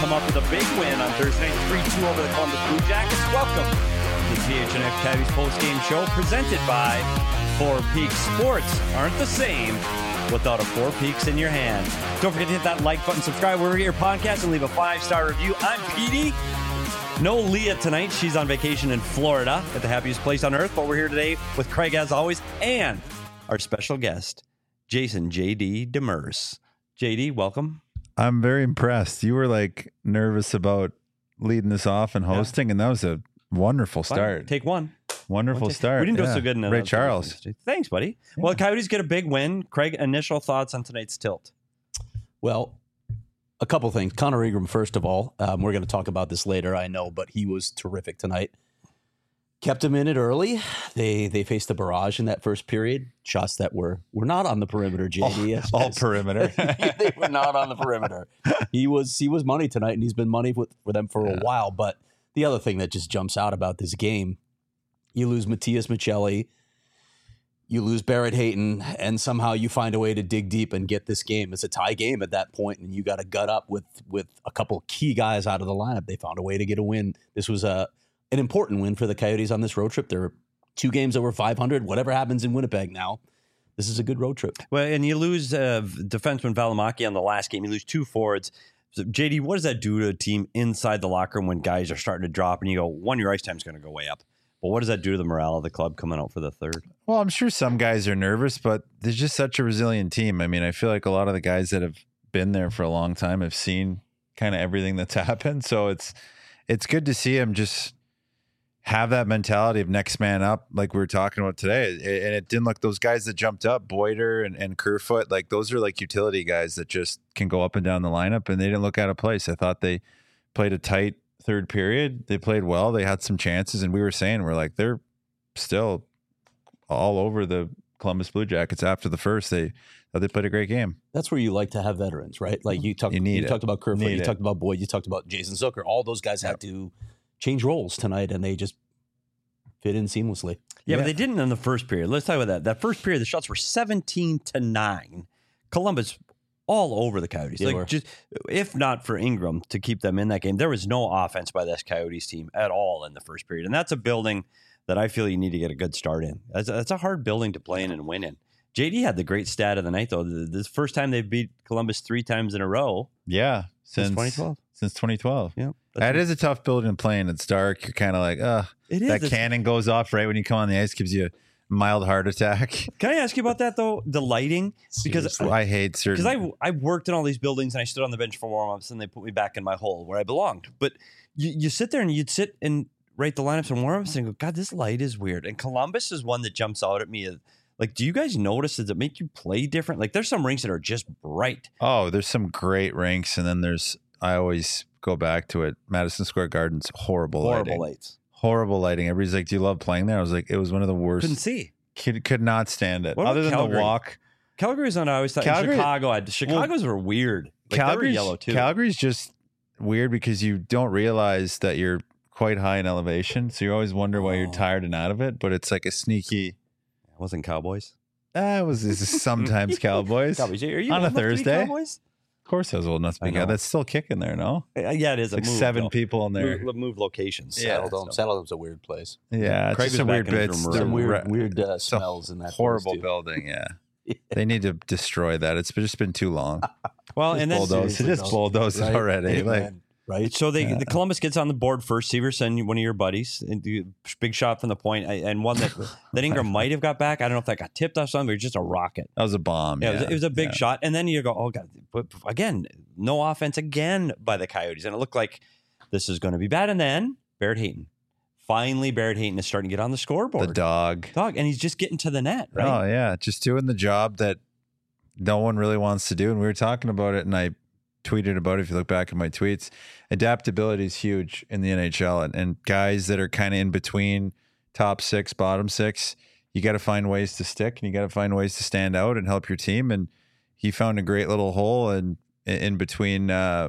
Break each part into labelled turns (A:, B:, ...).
A: come up with a big win on Thursday night, 3-2 over the Columbus Blue Jackets. Welcome to the PHNX Coyotes post-game show presented by Four Peaks. Sports aren't the same without a Four Peaks in your hand. Don't forget to hit that like button, subscribe wherever you get your podcast, and leave a 5-star review. I'm Petey. No Leah tonight. She's on vacation in Florida at the happiest place on earth, but we're here today with Craig as always and our special guest, Jason J.D. Demers. J.D., welcome.
B: I'm very impressed. You were like nervous about leading this off and hosting, and that was a wonderful start.
A: Take one.
B: Wonderful start.
A: We didn't do so good in
B: Ray Charles.
A: Thanks, buddy. Yeah. Well, the Coyotes get a big win. Craig, initial thoughts on tonight's tilt?
C: Well, a couple things. Connor Ingram, first of all, we're going to talk about this later, I know, but he was terrific tonight. Kept him in it early. They faced a barrage in that first period. Shots that were not on the perimeter, JD.
B: All perimeter.
C: They were not on the perimeter. He was money tonight, and he's been money for them for a while. But the other thing that just jumps out about this game, you lose Matias Maccelli, you lose Barrett Hayton, and somehow you find a way to dig deep and get this game. It's a tie game at that point, and you got to gut up with a couple key guys out of the lineup. They found a way to get a win. This was an important win for the Coyotes on this road trip. There are 2 games over 500. Whatever happens in Winnipeg now, this is a good road trip.
A: Well, and you lose defenseman Valimaki on the last game. You lose 2 forwards. So, JD, what does that do to a team inside the locker room when guys are starting to drop and you go, one, your ice time is going to go way up? But what does that do to the morale of the club coming out for the third?
B: Well, I'm sure some guys are nervous, but they're just such a resilient team. I mean, I feel like a lot of the guys that have been there for a long time have seen kind of everything that's happened. So it's good to see them just have that mentality of next man up, like we were talking about today. And it didn't look, those guys that jumped up, Boyder and Kerfoot, like those are like utility guys that just can go up and down the lineup, and they didn't look out of place. I thought they played a tight third period. They played well. They had some chances, and we were saying, we're like, they're still all over the Columbus Blue Jackets after the first. They played a great game.
C: That's where you like to have veterans, right? Like you talked about Kerfoot, you talked about Boyd, you talked about Jason Zucker. All those guys had to change roles tonight, and they just fit in seamlessly.
A: Yeah, but they didn't in the first period. Let's talk about that. That first period, the shots were 17-9. Columbus all over the Coyotes. Just if not for Ingram to keep them in that game, there was no offense by this Coyotes team at all in the first period. And that's a building that I feel you need to get a good start in. That's a hard building to play in and win in. JD had the great stat of the night, though. This first time they've beat Columbus 3 times in a row.
B: Yeah.
A: Since 2012.
B: Since 2012.
A: Yeah.
B: That is a tough building to play in. It's dark. You're kind of like, that cannon goes off right when you come on the ice, gives you a mild heart attack.
A: Can I ask you about that, though? The lighting? Because
B: I hate certain...
A: Because I worked in all these buildings, and I stood on the bench for warm-ups, and they put me back in my hole where I belonged. But you sit there, and you'd sit and write the lineups and warm-ups and go, God, this light is weird. And Columbus is one that jumps out at me. Like, do you guys notice, does it make you play different? Like, there's some rinks that are just bright.
B: Oh, there's some great rinks, and then I always go back to it. Madison Square Garden's horrible lights. Horrible lighting. Everybody's like, do you love playing there? I was like, it was one of the worst.
A: Couldn't see.
B: Could not stand it.
A: What
B: Other than
A: Calgary?
B: The walk.
A: Calgary's on, I always thought Chicago's were weird. Like,
B: Calgary's
A: yellow too.
B: Calgary's just weird because you don't realize that you're quite high in elevation. So you always wonder why you're tired and out of it. But it's like a sneaky.
A: It wasn't Cowboys.
B: It was sometimes Cowboys.
A: Cowboys. Are you
B: on a Thursday?
A: Cowboys?
B: Of course I was old enough to be. That's still kicking there, no?
A: Yeah, it is.
B: Like 7 people in there.
A: Move locations.
C: Yeah, Saddledome's a weird place.
B: Yeah, it's just some weird bits.
C: Some weird smells in that
B: horrible building, yeah. They need to destroy that. It's just been too long.
A: Well, and then
B: just bulldoze it already.
A: Right. So the Columbus gets on the board first. Severson, one of your buddies, and big shot from the point, and one that Ingram might have got back. I don't know if that got tipped off something, but it was just a rocket.
B: That was a bomb.
A: Yeah, it was a big shot. And then you go, oh God, but again, no offense again by the Coyotes, and it looked like this is going to be bad. And then Barrett Hayton. Finally, Barrett Hayton is starting to get on the scoreboard.
B: The dog,
A: and he's just getting to the net. Right?
B: Oh yeah, just doing the job that no one really wants to do. And we were talking about it, and I tweeted about it. If you look back at my tweets, adaptability is huge in the NHL, and guys that are kind of in between top 6, bottom 6, you got to find ways to stick, and you got to find ways to stand out and help your team. And he found a great little hole in between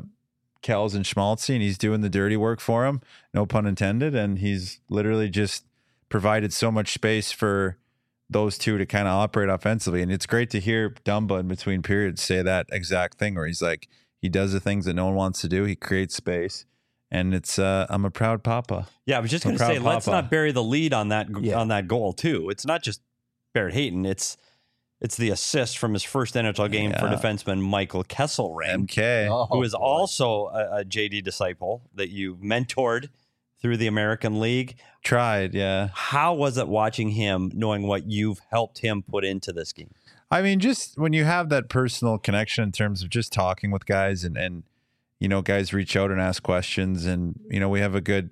B: Kells and Schmaltzy, and he's doing the dirty work for him, no pun intended. And he's literally just provided so much space for those two to kind of operate offensively. And it's great to hear Dumba in between periods say that exact thing, where he's like, He does the things that no one wants to do. He creates space. And it's I'm a proud papa.
A: Yeah, I was just going to say, let's not bury the lead on that goal too. It's not just Barrett Hayton. It's the assist from his first NHL game for defenseman Michael Kesselring,
B: MK,
A: who is also a JD disciple that you mentored through the American League.
B: Tried, yeah.
A: How was it watching him, knowing what you've helped him put into this game?
B: I mean, just when you have that personal connection in terms of just talking with guys and you know, guys reach out and ask questions, and you know, we have a good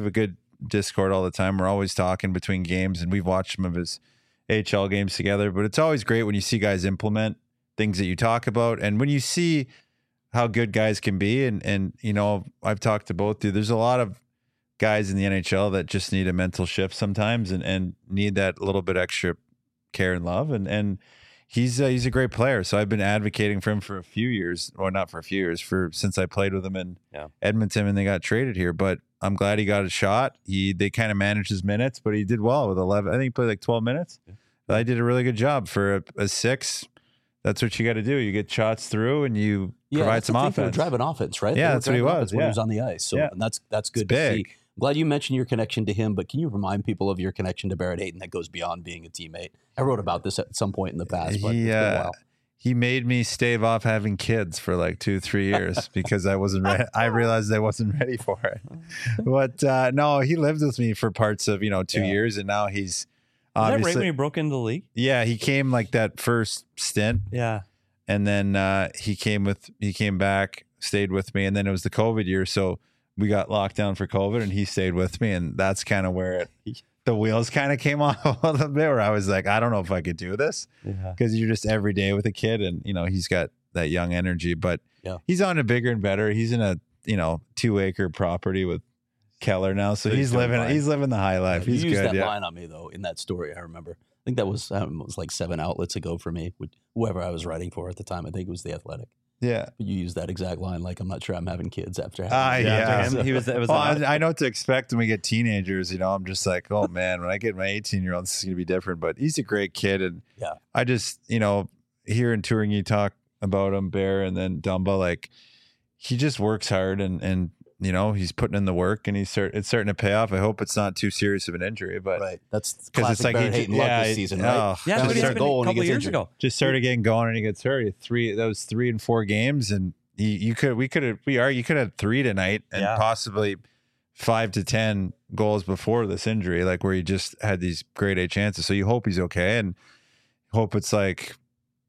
B: Discord all the time. We're always talking between games, and we've watched some of his AHL games together. But it's always great when you see guys implement things that you talk about, and when you see how good guys can be. And you know, I've talked to both of you. There's a lot of guys in the NHL that just need a mental shift sometimes, and need that little bit extra care and love. And he's a great player. So I've been advocating for him for a few years, or not for a few years, since I played with him in Edmonton and they got traded here. But I'm glad he got a shot. They kind of managed his minutes, but he did well with 11. I think he played like 12 minutes. Yeah. I did a really good job for a 6. That's what you got to do. You get shots through and you provide some offense.
C: Driving offense, right?
B: Yeah, that's what he was
C: when he was on the ice. So and that's good to see. I'm glad you mentioned your connection to him, but can you remind people of your connection to Barrett Hayton that goes beyond being a teammate? I wrote about this at some point in the past, but it's been a while.
B: He made me stave off having kids for like 2-3 years because I wasn't ready. I realized I wasn't ready for it. But no, he lived with me for parts of 2 years, and now he's obviously.
A: Is that right when he broke into the league? Yeah,
B: he came like that first stint.
A: Yeah,
B: and then he came back, stayed with me, and then it was the COVID year, so we got locked down for COVID, and he stayed with me, and that's kind of where the wheels kind of came off a little bit, where I was like, I don't know if I could do this, because you're just every day with a kid, and he's got that young energy, but he's on to bigger and better. He's in a 2-acre property with Keller now, so he's living the high life. He's
C: you used
B: good.
C: That line on me though in that story. I remember. I think that was like 7 outlets ago for me, with whoever I was writing for at the time. I think it was The Athletic.
B: Yeah,
C: but you used that exact line, like, I'm not sure I'm having kids after having
B: I know what to expect when we get teenagers. I'm just like, oh man, when I get my 18-year-old, this is gonna be different. But he's a great kid, and I just hearing touring you talk about him, Bear, and then Dumba, like, he just works hard, and he's putting in the work, and it's starting to pay off. I hope it's not too serious of an injury, but
C: that's because it's like Hayton luck this season, right?
A: Yeah, but he had a couple of years ago.
B: Just started getting going, and he gets hurt. That was 3 and 4 games, and you could have 3 tonight, and possibly 5 to 10 goals before this injury, like where he just had these grade A chances. So you hope he's okay, and hope it's like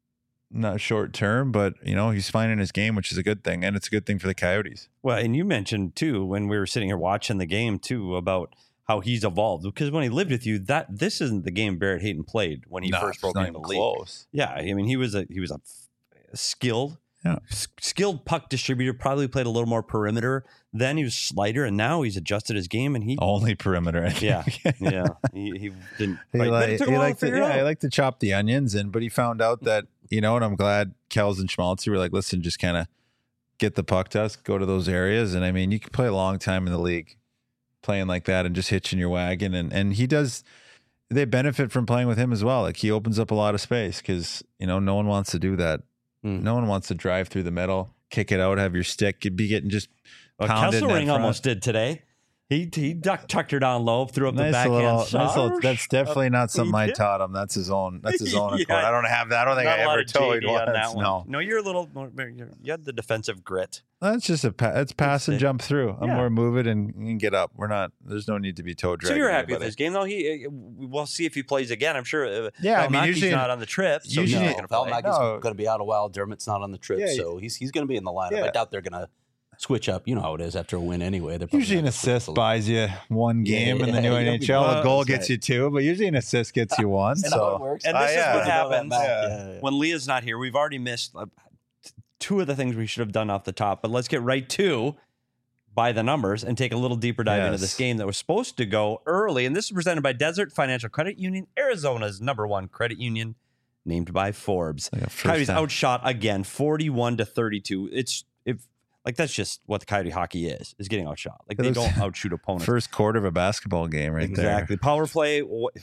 B: not short term, but he's finding his game, which is a good thing, and it's a good thing for the Coyotes.
A: Well, and you mentioned too, when we were sitting here watching the game too, about how he's evolved, because when he lived with you, this isn't the game Barrett Hayton played when he first broke into the league.
B: Close.
A: Yeah, I mean, he was a skilled puck distributor. Probably played a little more perimeter. Then he was slider, and now he's adjusted his game, and he
B: only perimeter.
A: Yeah. He didn't.
B: He liked to chop the onions, but he found out that and I'm glad Kels and Schmaltzy were like, listen, just kind of get the puck to us, go to those areas, and I mean, you can play a long time in the league playing like that and just hitching your wagon, and he does. They benefit from playing with him as well. Like, he opens up a lot of space because no one wants to do that. No one wants to drive through the middle, kick it out, have your stick. You'd be getting just pounded.
A: Kesselring almost did today. He tucked her down low, threw up the backhand shot.
B: That's definitely not something I taught him. That's his own accord. I don't have that. I don't think I ever told you on that one.
A: No, you're a little more. You had the defensive grit.
B: That's just it's pass and jump through. I'm more move it and get up. We're not. There's no need to be toe dragging.
A: So you're happy with this game, though. We'll see if he plays again. I'm sure.
C: I
A: mean, usually not on the trip. So
C: usually Valmaki's going to be out a while. Dermott's not on the trip, so he's going to be in the lineup. I doubt they're going to switch up. You know how it is after a win anyway.
B: Usually an assist buys you one game in the new NHL. A goal gets you 2, but usually an assist gets you 1. So
C: it works.
A: And this is what happens when Leah's not here. We've already missed 2 of the things we should have done off the top, but let's get right to by the numbers and take a little deeper dive into this game that was supposed to go early. And this is presented by Desert Financial Credit Union, Arizona's #1 credit union, named by Forbes. Coyotes outshot again, 41-32. Like that's just what the Coyote hockey is getting outshot. Like they
B: It
A: don't
B: looks-
A: outshoot opponents.
B: First quarter of a basketball game, right
A: Exactly. Power play,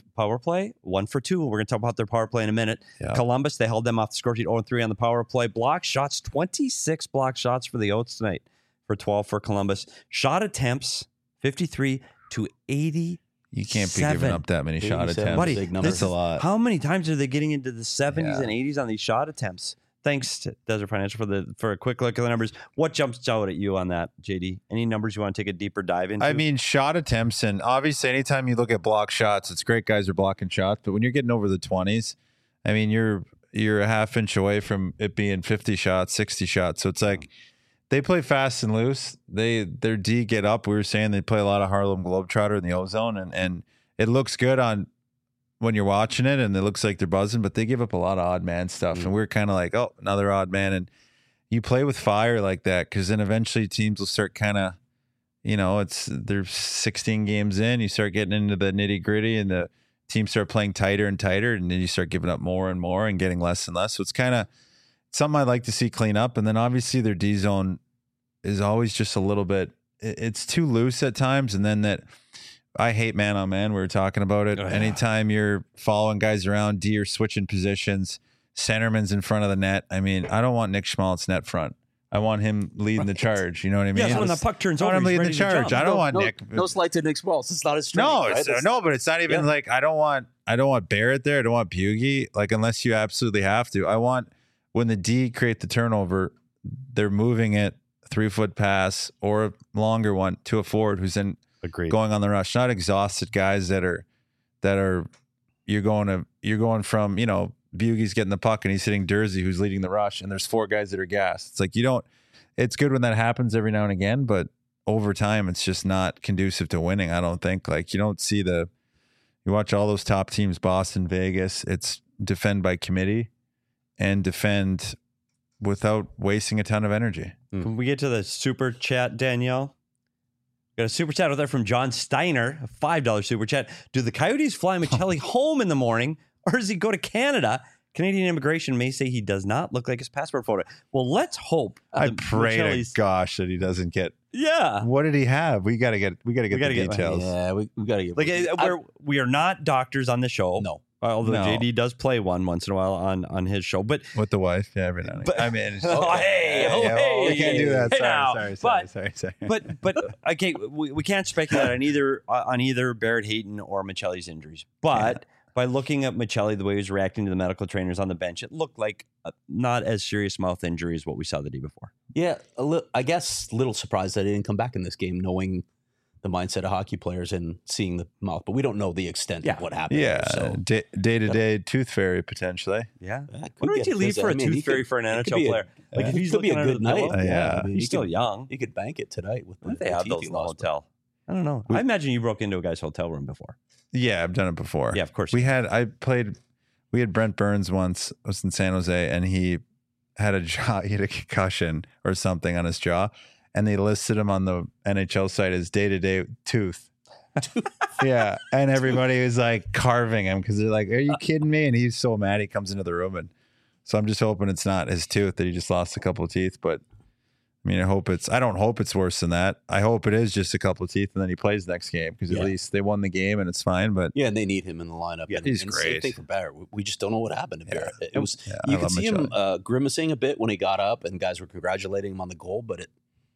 A: 1 for 2. We're going to talk about their power play in a minute.
B: Yeah.
A: Columbus, they held them off the score sheet 0-3 on the power play. Block shots, 26 block shots for the Oats tonight for 12 for Columbus. Shot attempts, 53 to 80.
B: You can't be giving up that many shot
C: 87.
B: attempts.
A: Buddy,
C: big number.
B: That's a lot.
A: How many times are they getting into the 70s
B: Yeah.
A: and 80s on these shot attempts? Thanks to Desert Financial for a quick look at the numbers. What jumps out at you on that, JD? Any numbers you want to take a deeper dive into?
B: I mean, shot attempts, and obviously, anytime you look at block shots, it's great. Guys are blocking shots, but when you're getting over the 20s, I mean, you're a half inch away from it being 50 shots, 60 shots. So it's like they play fast and loose. Their D get up. We were saying they play a lot of Harlem Globetrotter in the O-zone, and it looks good on when you're watching it, and it looks like they're buzzing, but they give up a lot of odd man stuff, and we're kind of like, oh, another odd man. And you play with fire like that, because then eventually teams will start kind of, they're 16 games in, you start getting into the nitty gritty, and the teams start playing tighter and tighter, and then you start giving up more and more and getting less and less. So it's kind of something I'd like to see clean up. And then obviously their D zone is always just a little bit, it's too loose at times. And then that, I hate man on man. We were talking about it.
A: Oh, yeah.
B: Anytime you're following guys around, D or switching positions, centerman's in front of the net. I mean, I don't want Nick Schmaltz net front. I want him leading the charge. You know what I mean?
A: yeah, so when the puck turns
B: I
A: over,
B: want him
A: he's
B: leading the
A: ready to
B: charge.
A: jump.
B: I don't want Nick.
C: No slight to Nick Schmaltz. It's not his strength.
B: No,
C: right?
B: but it's not even like I don't want Barrett there. I don't want Bugey. Like unless you absolutely have to. I want when the D create the turnover, they're moving it 3-foot pass or a longer one to a forward who's in
A: Agreed.
B: going on the rush. Not exhausted guys that are you're going from Bugey's getting the puck and he's hitting Dursey who's leading the rush, and there's 4 guys that are gassed. It's like it's good when that happens every now and again, but over time it's just not conducive to winning. I don't think. Like you don't see you watch all those top teams, Boston, Vegas, it's defend by committee and defend without wasting a ton of energy.
A: Can we get to the super chat, Danielle? Got a super chat out there from John Steiner, a $5 super chat. Do the Coyotes fly Michelli home in the morning, or does he go to Canada? Canadian immigration may say he does not look like his passport photo. Well, let's hope.
B: I
A: that
B: pray to
A: Michelli's-
B: gosh that he doesn't get.
A: Yeah.
B: What did he have? We got to get the details.
C: Yeah, we got to get
A: We are not doctors on the show.
C: No.
A: Although
B: No.
A: JD does play one once in a while on his show. But
B: With the wife, yeah, every now and
A: But-
B: again. I mean, it's-
A: Oh, hey, oh,
B: yeah, well, we
A: hey.
B: can't do that.
A: Hey, now.
B: Sorry.
A: but okay, we can't speculate on either Barrett Hayton or Michelli's injuries. But by looking at Michelli, the way he was reacting to the medical trainers on the bench, it looked like not as serious mouth injury as what we saw the day before.
C: Yeah, I guess little surprised that he didn't come back in this game, knowing the mindset of hockey players and seeing the mouth. But we don't know the extent of what happened.
B: Yeah,
C: So
B: day-to-day tooth fairy potentially.
A: Yeah.
C: that could
A: What would
C: get
A: you leave
C: busy.
A: for a
C: I mean,
A: tooth
C: he
A: fairy
C: could-
A: for an
C: it could
A: NHL
C: be a-
A: player? Like if
C: it
A: he's
C: could be
A: looking
C: a
A: under
C: good
A: the
C: night.
A: pillow,
B: Yeah.
C: I mean,
A: he's
C: he
A: still
C: could-
A: young.
C: He could bank it tonight with
A: What if
C: the
A: they have
C: teeth
A: those
C: he
A: in the
C: lost, but-
A: hotel? I don't know. I imagine you broke into a guy's hotel room before.
B: Yeah, I've done it before.
A: Yeah, of course.
B: We had Brent Burns once. I was in San Jose, and he had he had a concussion or something on his jaw, and they listed him on the NHL site as day-to-day tooth. Yeah, and everybody was like carving him because they're like, "Are you kidding me?" And he's so mad. He comes into the room, and so I'm just hoping it's not his tooth that he just lost a couple of teeth. But I mean, I don't hope it's worse than that. I hope it is just a couple of teeth, and then he plays next game because at
C: Yeah.
B: least they won the game and it's fine. But
C: Yeah, and they need him in the lineup.
B: Yeah,
C: and,
B: he's
C: and
B: great.
C: Same thing for Barrett. We just don't know what happened to Barrett. It was
B: I
C: you could
B: love
C: see him
B: Michelli.
C: grimacing a bit when he got up, and guys were congratulating him on the goal. But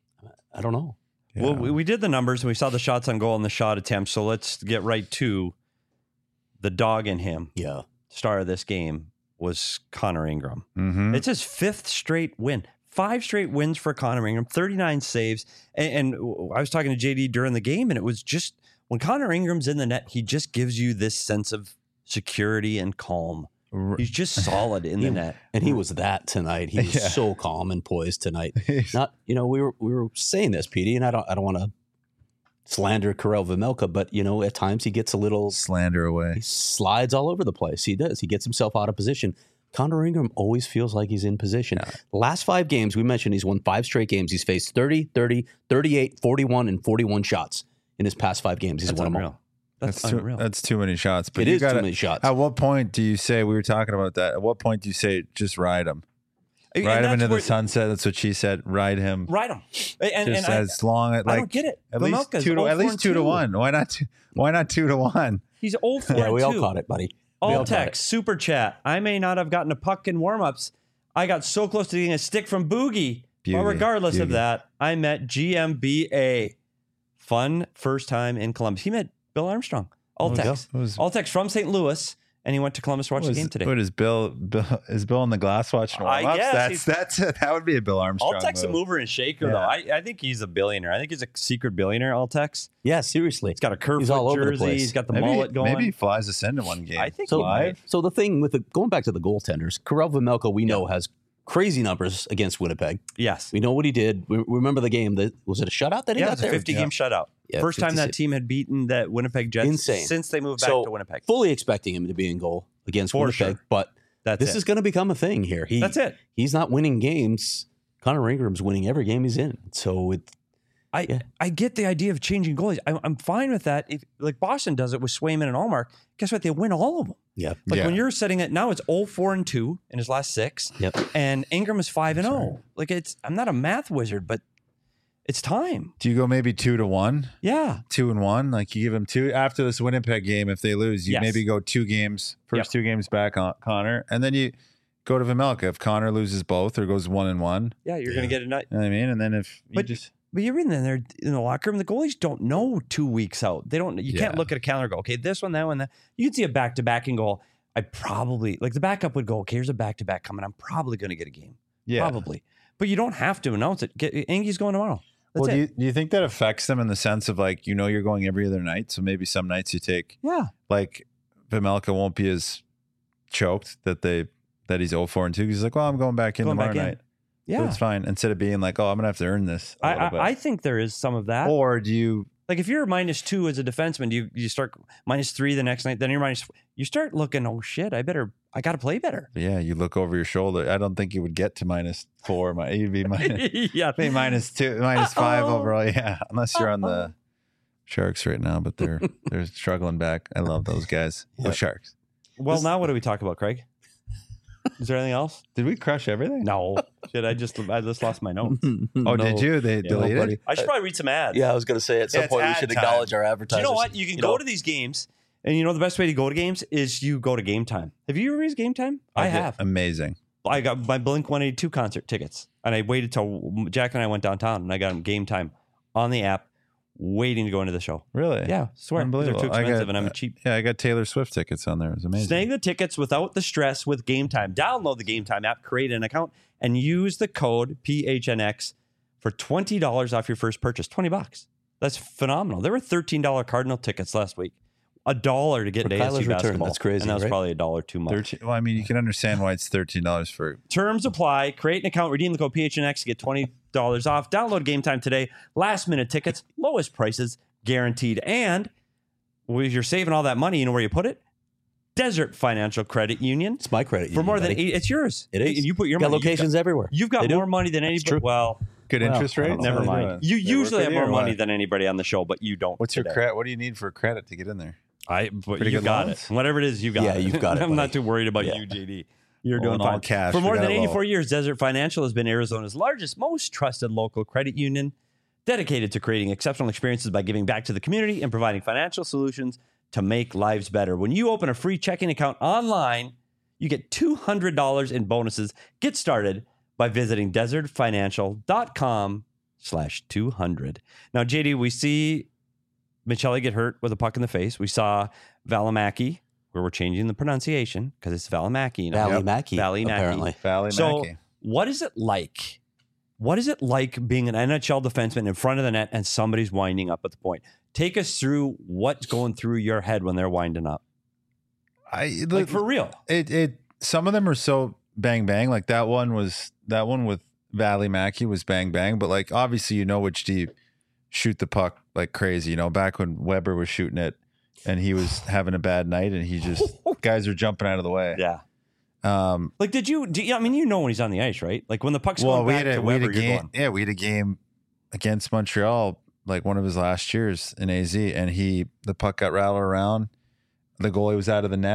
C: I don't know.
A: Well,
B: yeah.
A: we did the numbers and we saw the shots on goal and the shot attempts. So let's get right to the dog in him.
C: Yeah,
A: Star of this game was Connor Ingram.
B: Mhm.
A: It's his 5th straight win. 5 straight wins for Connor Ingram, 39 saves. And I was talking to JD during the game, and it was just when Connor Ingram's in the net, he just gives you this sense of security and calm. He's just solid in the net.
C: and he was that tonight. He was
B: Yeah.
C: so calm and poised tonight. Not, we were saying this, Petey, and I don't want to slander Karel Vejmelka, but at times he gets a little
B: slander away.
C: he slides all over the place. He does. He gets himself out of position. Connor Ingram always feels like he's in position. The last 5 games, we mentioned he's won 5 straight games. He's faced 30, 30, 38, 41, and 41 shots in his past 5 games. He's
A: That's
C: won them all.
A: unreal. That's unreal.
B: That's too many shots. But
C: It
B: you
C: is too
B: gotta-
C: many shots.
B: At what point do you say, we were talking about that, at what point do you say just ride him?
A: And
B: Ride him
A: that's
B: into
A: where-
B: the sunset. That's what she said. Ride him.
A: Ride him. And
B: Just
A: I
B: as long as
A: I
B: like
A: don't get it.
B: at least
A: Vejmelka's
B: 2 to
A: 0-4-2.
B: 1. Why not 2 to 1?
A: He's 0-4-2.
C: Yeah, we all caught it, buddy. We all
A: All
C: caught it.
A: text, super chat. I may not have gotten a puck in warmups. I got so close to getting a stick from Boogie. But regardless of that, I met GMBA. Fun first time in Columbus. He met Bill Armstrong. All text. All text from St. Louis, and he went to Columbus to watch the game today.
B: What is Bill? Is Bill in the glass watching
A: I
B: warm-ups?
A: guess
B: That would be a Bill Armstrong.
A: All text a
B: move.
A: mover and shaker,
B: Yeah.
A: though. I think he's a billionaire. I think he's a secret billionaire, All text.
C: Yeah, seriously.
A: He's got a
C: He's all
A: Kerfoot
C: over the
A: jersey.
C: place.
A: He's got the
B: Maybe,
A: mullet going.
B: maybe he flies us into one game.
A: I think
C: So,
A: he might.
C: so the thing with going back to the goaltenders, Karel Vejmelka, we know has crazy numbers against Winnipeg.
A: Yes.
C: We know what he did. We remember the game. Was it a shutout that he
A: Yeah, it
C: got
A: was a
C: there?
A: 50-game shutout.
C: Yeah,
A: First time that
C: 56.
A: team had beaten the Winnipeg Jets
C: Insane.
A: since they moved back
C: So,
A: to Winnipeg.
C: fully expecting him to be in goal against
A: For
C: Winnipeg,
A: sure.
C: but
A: That's
C: this
A: it.
C: is going to become a thing here.
A: That's it.
C: He's not winning games. Connor Ingram's winning every game he's in. So
A: I get the idea of changing goalies. I'm fine with that. If like Boston does it with Swayman and Allmark, guess what? They win all of them.
C: yeah,
A: Like
B: Yeah.
A: when you're setting it now, it's 0-4-2 in his last 6.
C: Yep.
A: And Ingram is 5-0. Like I'm not a math wizard, but it's time.
B: Do you go maybe 2 to 1?
A: Yeah.
B: 2-1. Like you give him 2 after this Winnipeg game. If they lose, you
A: Yes.
B: maybe go 2 games, first
A: Yep.
B: 2 games back on Connor, and then you go to Vejmelka. If Connor loses both or goes 1-1,
A: Yeah, you're going to get a night.
B: you know what I mean? And then if you
A: But you're in there in the locker room. The goalies don't know 2 weeks out. They don't. You can't
B: Yeah.
A: look at a calendar and go, okay, this one, that one, that. You can see a back-to-back and go, I probably, like the backup would go, okay, here's a back-to-back coming. I'm probably going to get a game.
B: yeah.
A: Probably. But you don't have to announce it. Angie's going tomorrow. That's
B: Well,
A: it.
B: do you think that affects them in the sense of like, you're going every other night? So maybe some nights you take,
A: Yeah.
B: like Vejmelka won't be as choked that he's 0-4-2. He's like, well, I'm going back in
A: Going
B: tomorrow
A: back in.
B: night.
A: Yeah.
B: So it's fine. Instead of being like, oh, I'm going to have to earn this a little bit.
A: I think there is some of that.
B: Or do you,
A: Like if you're -2 as a defenseman, you start -3 the next night, then you're you start looking, oh shit, I got to play better.
B: yeah, you look over your shoulder. I don't think you would get to -4. You'd be
A: Yeah.
B: maybe -2, -5
A: Uh-oh.
B: overall. Yeah, unless you're on the Sharks right now, but they're struggling back. I love those guys.
C: Yeah.
B: Those Sharks.
A: Well, now what do we talk about, Craig? Is there anything else?
B: Did we crush everything?
A: No. Shit, I just lost my notes.
B: Oh, did you? They deleted?
C: buddy.
A: I should probably read some ads.
C: Yeah, I was going to say at some
B: it's
C: point we
B: ad
C: should
B: time.
C: acknowledge our
A: Do
C: advertisers.
A: you know what? You can go to these games, and you know the best way to go to games is you go to Game Time. Have you ever used Game Time? I have.
B: Amazing.
A: I got my Blink 182 concert tickets, and I waited till Jack and I went downtown, and I got them Game Time on the app, waiting to go into the show.
B: Really?
A: Yeah, swear. 'Cause
B: Unbelievable.
A: they're too expensive, and I'm cheap.
B: Yeah, I got Taylor Swift tickets on there. It was amazing.
A: Snag the tickets without the stress with Game Time. Download the Game Time app, create an account, and use the code PHNX for $20 off your first purchase. $20. That's phenomenal. There were $13 Cardinal tickets last week. $1 to get
C: For
A: into
C: Kyler's
A: ASU
C: return,
A: basketball.
C: that's crazy,
A: And that was
C: right?
A: probably $1 too much.
B: 13, well, I mean, you can understand why it's $13 for.
A: Terms apply. Create an account. Redeem the code PHNX to get $20 off. Download Game Time today. Last minute tickets. Lowest prices guaranteed. And if you're saving all that money, you know where you put it? Desert Financial Credit Union.
C: It's my credit.
A: For
C: union,
A: more than
C: buddy.
A: it's yours.
C: It is.
A: And you put your
C: got
A: money.
C: locations everywhere.
A: You've got
C: They do.
A: more money than anybody.
C: true.
A: Well,
B: Good interest
C: I don't
B: rates?
C: know.
A: never
B: How they
A: mind.
B: doing?
A: You
B: They work
A: usually
B: with
A: have
B: you
A: more
B: or
A: money
B: what?
A: than anybody on the show, but you don't.
B: What's your
A: today.
B: credit? What do you need for credit to get in there?
A: But
B: Pretty
A: you
B: good
A: got
B: loans?
A: it. Whatever it is, you got
C: Yeah,
A: it.
C: you've got it,
A: I'm not
C: buddy.
A: too worried about
C: Yeah.
A: you, JD. You're
B: Well,
A: doing
B: in all
A: fine.
B: cash,
A: For
B: we
A: more
B: got
A: than
B: it low.
A: 84 years, Desert Financial has been Arizona's largest, most trusted local credit union, dedicated to creating exceptional experiences by giving back to the community and providing financial solutions to make lives better. When you open a free checking account online, you get $200 in bonuses. Get started by visiting desertfinancial.com/200. Now, JD, we see Michelli get hurt with a puck in the face. We saw Valimaki, where we're changing the pronunciation because it's Valimaki. now.
C: Valley Mackey,
A: Valley Mackey.
C: apparently.
B: Valley
A: So,
B: Mackey.
A: what is it like? What is it like being an NHL defenseman in front of the net and somebody's winding up at the point? Take us through what's going through your head when they're winding up. Like for real.
B: Some of them are so bang bang. Like that one with Valley Mackey was bang bang, but like obviously which do you shoot the puck like crazy, back when Weber was shooting it and he was having a bad night and he just guys are jumping out of the way.
A: Yeah.
B: Like
A: I mean, when he's on the ice, right? Like when the puck's
B: well,
A: going back to Weber, you're going.
B: Yeah, we had a game against Montreal, like one of his last years in AZ, and the puck got rattled around. The goalie was out of the net.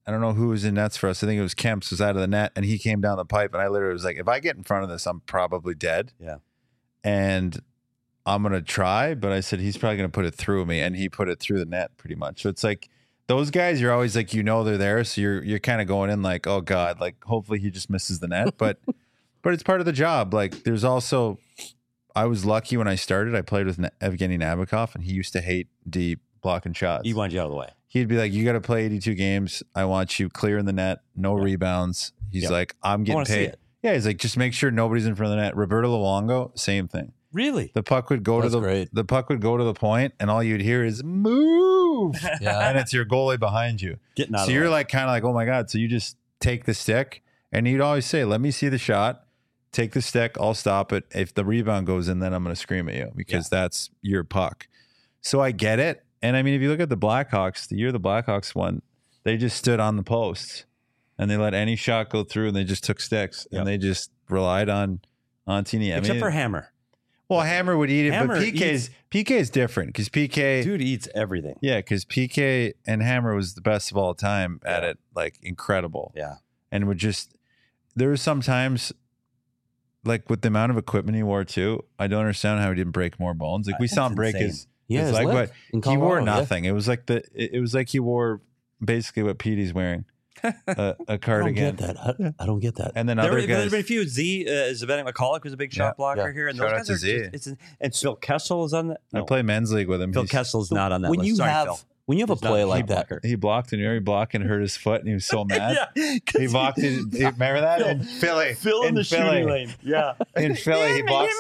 B: I don't know who was in nets for us. I think it was Kemp's was out of the net, and he came down the pipe, and I literally was like, if I get in front of this, I'm probably dead.
A: Yeah.
B: And I'm going to try, but I said, he's probably going to put it through me, and he put it through the net pretty much. So it's like those guys, you're always like, they're there. So you're kind of going in like, oh God, like hopefully he just misses the net. But it's part of the job. Like there's also, I was lucky when I started, I played with Evgeny Nabokov, and he used to hate deep blocking shots.
A: He wanted you out of the way.
B: He'd be like, you got to play 82 games. I want you clear in the net, no rebounds. He's like, I'm getting paid. Yeah, he's like, just make sure nobody's in front of the net. Roberto Luongo, same thing.
A: Really?
B: The puck would go the puck would go to the point, and all you'd hear is move. Yeah, and it's your goalie behind you.
A: Getting out.
B: So you're like kind of like, oh my God. So you just take the stick, and he'd always say, let me see the shot. Take the stick. I'll stop it. If the rebound goes in, then I'm going to scream at you because that's your puck. So I get it. And I mean, if you look at the Blackhawks, the year the Blackhawks won, they just stood on the posts and they let any shot go through, and they just took sticks and they just relied on Tini.
A: Except for Hammer.
B: Well, Hammer would eat it, but PK is different because PK
A: dude eats everything.
B: Yeah, because PK and Hammer was the best of all time at it, like incredible.
A: Yeah,
B: and there were some times. Like with the amount of equipment he wore too, I don't understand how he didn't break more bones. Like we saw him break his leg, but he wore nothing. It was like he wore basically what Petey's wearing, a cardigan.
C: I don't get that.
B: And then
A: there's been a few. Zdenek McCulloch was a big shot blocker here, and
B: shout
A: those guys are. And Phil Kessel is on that.
B: I play men's league with him.
A: Phil Kessel's not on that list. Sorry, Phil.
C: When you have a play like that,
B: he blocked and he blocked and hurt his foot, and he was so mad. He blocked it. Remember that in Philly?
A: Phil in the shooting lane. Yeah,
B: in Philly, he blocked.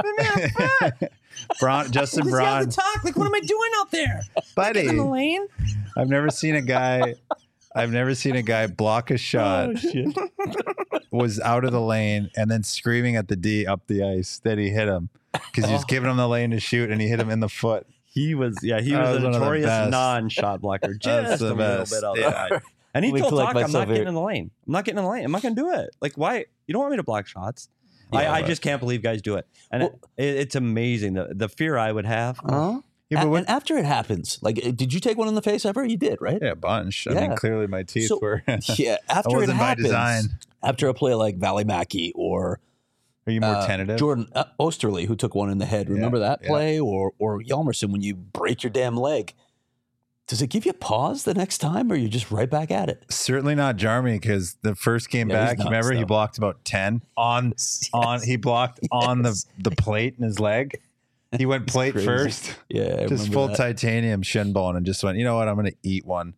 B: Justin Braun.
A: Talk like, what am I doing out there,
B: buddy?
A: In the lane.
B: I've never seen a guy block a shot. Was out of the lane and then screaming at the D up the ice that he hit him because he was giving him the lane to shoot, and he hit him in the foot.
A: He was a notorious non-shot blocker. Just a little bit outside. And he told Talk, I'm not getting in the lane. I'm not going to do it. Like, why? You don't want me to block shots? I just can't believe guys do it. And it's amazing. The fear I would have.
C: And after it happens, like, did you take one in the face ever? You did, right?
B: Yeah, a bunch. I mean, clearly my teeth were.
C: Yeah, after it happens, by design. After a play like Valimaki or...
B: Are you more tentative?
C: Jordan Osterley, who took one in the head. Remember that play? Or Hjalmarsson, when you break your damn leg. Does it give you pause the next time, or you're just right back at it?
B: Certainly not Jarmy, because the first game back, remember, he blocked about 10 he blocked on the plate in his leg. He went plate first.
C: Yeah,
B: just full titanium shin bone, and just went, you know what, I'm going to eat one.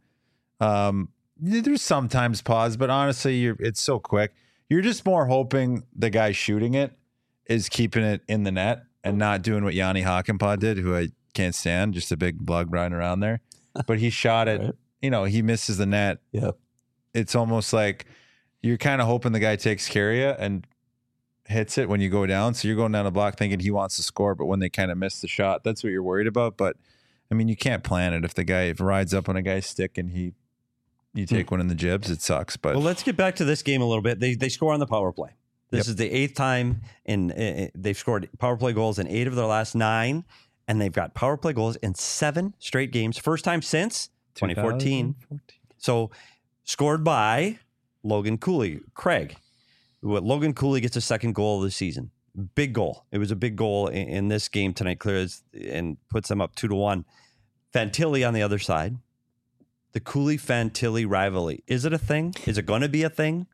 B: There's sometimes pause, but honestly, it's so quick. You're just more hoping the guy shooting it is keeping it in the net and not doing what Yanni Hakanpää did, who I can't stand, just a big blug riding around there. But he shot it, he misses the net.
C: Yeah.
B: It's almost like you're kind of hoping the guy takes care of you and hits it when you go down. So you're going down the block thinking he wants to score, but when they kind of miss the shot, that's what you're worried about. But I mean, you can't plan it. If the guy rides up on a guy's stick and you take one in the jibs, it sucks. But
A: well, let's get back to this game a little bit. They score on the power play. This is the 8th time they've scored power play goals in 8 of their last 9, and they've got power play goals in 7 straight games. First time since 2014. So scored by Logan Cooley. Craig, Logan Cooley gets a second goal of the season. Big goal. It was a big goal in this game tonight. Clears and puts them up 2-1. Fantilli on the other side. The Cooley-Fantilli rivalry. Is it a thing? Is it going to be a thing?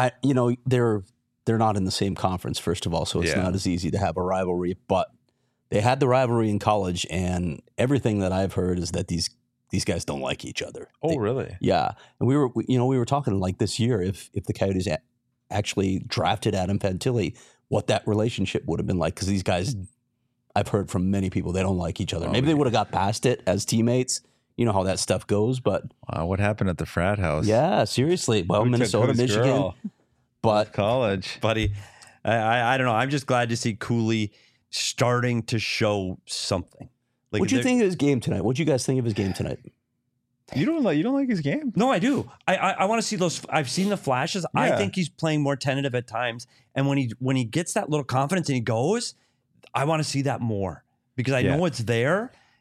C: They're not in the same conference, first of all, so it's not as easy to have a rivalry. But they had the rivalry in college, and everything that I've heard is that these guys don't like each other.
B: Really?
C: Yeah. And we were talking like this year, if the Coyotes actually drafted Adam Fantilli, what that relationship would have been like, because these guys, I've heard from many people, they don't like each other. Maybe they would have got past it as teammates. You know how that stuff goes, but
B: what happened at the frat house?
C: Yeah, seriously. Well, Minnesota, Michigan, but
B: college,
A: buddy. I don't know. I'm just glad to see Cooley starting to show something.
C: Like, what'd you think of his game tonight? What'd you guys think of his game tonight?
B: You don't like his game?
A: No, I do. I want to see those. I've seen the flashes. Yeah. I think he's playing more tentative at times, and when he gets that little confidence and he goes, I want to see that more because I know it's there.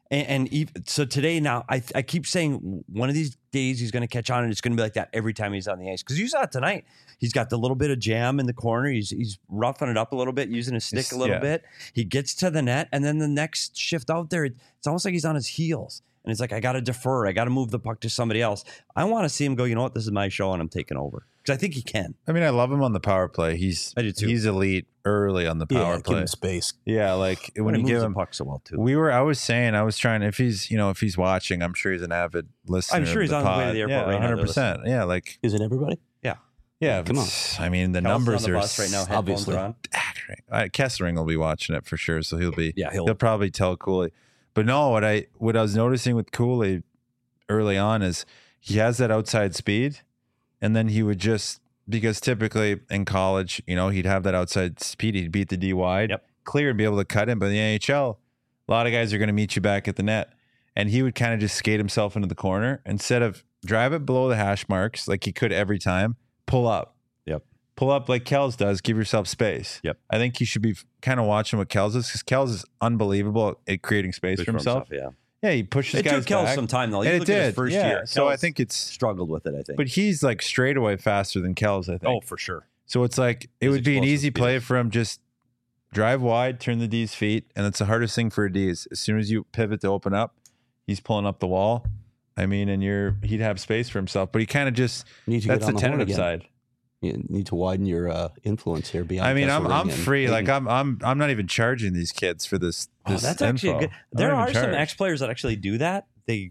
A: And even, so today now, I keep saying one of these days he's going to catch on, and it's going to be like that every time he's on the ice. Because you saw it tonight. He's got the little bit of jam in the corner. He's roughing it up a little bit, using his stick a little bit. He gets to the net, and then the next shift out there, it's almost like he's on his heels. And it's like, I got to defer. I got to move the puck to somebody else. I want to see him go, you know what? This is my show, and I'm taking over. Because I think he can.
B: I mean, I love him on the power play.
A: I do too.
B: He's elite early on the power play.
C: Give him space.
B: Yeah, like when
A: he
B: you
A: moves
B: give
A: the
B: him
A: puck so well too.
B: I was trying, if he's watching, I'm sure he's an avid listener.
A: I'm sure he's
B: of
A: on
B: the
A: the way to
B: pod.
A: the airport right now.
B: 100%. Yeah, like
C: Isn't everybody?
B: yeah.
C: Come on.
B: I mean, the
A: Kelsey's
B: numbers
A: on the
B: are
A: bus right now. Headphones
C: obviously
A: are on.
B: Kessling will be watching it for sure, so he'll
A: He'll
B: probably tell Cooley. But no, what I was noticing with Cooley early on is he has that outside speed, and then he would just, because typically in college, he'd have that outside speed, he'd beat the D wide, clear and be able to cut in. But in the NHL, a lot of guys are going to meet you back at the net, and he would kind of just skate himself into the corner instead of drive it below the hash marks like he could every time. Pull up. Pull up like Kels does. Give yourself space. I think you should be kind of watching what Kels is, because Kels is unbelievable at creating space for himself. Yeah, he pushes guys
A: took Kels
B: back.
A: some time though.
B: And
A: Look at his first year.
B: So I
A: Kels
B: think it's
A: struggled with it. I think,
B: but he's like straight away faster than Kels, I think.
A: oh, for sure.
B: So it's like it
A: His
B: would be an
A: explosive
B: easy
A: speed.
B: play for him. Just drive wide, turn the D's feet, and it's the hardest thing for a D. Is as soon as you pivot to open up, he's pulling up the wall. I mean, and he'd have space for himself, but he kind of just
C: Need to
B: that's
C: get on
B: the
C: the horn
B: tentative
C: again.
B: side.
C: You need to widen your influence here. Beyond
B: I mean, I'm
C: Kesselring and
B: free. Like
C: Hayden.
B: I'm not even charging these kids for this.
A: Oh, that's actually
B: info.
A: good.
B: I'm
A: There
B: not
A: are
B: even
A: some
B: charged.
A: ex players that actually do that. They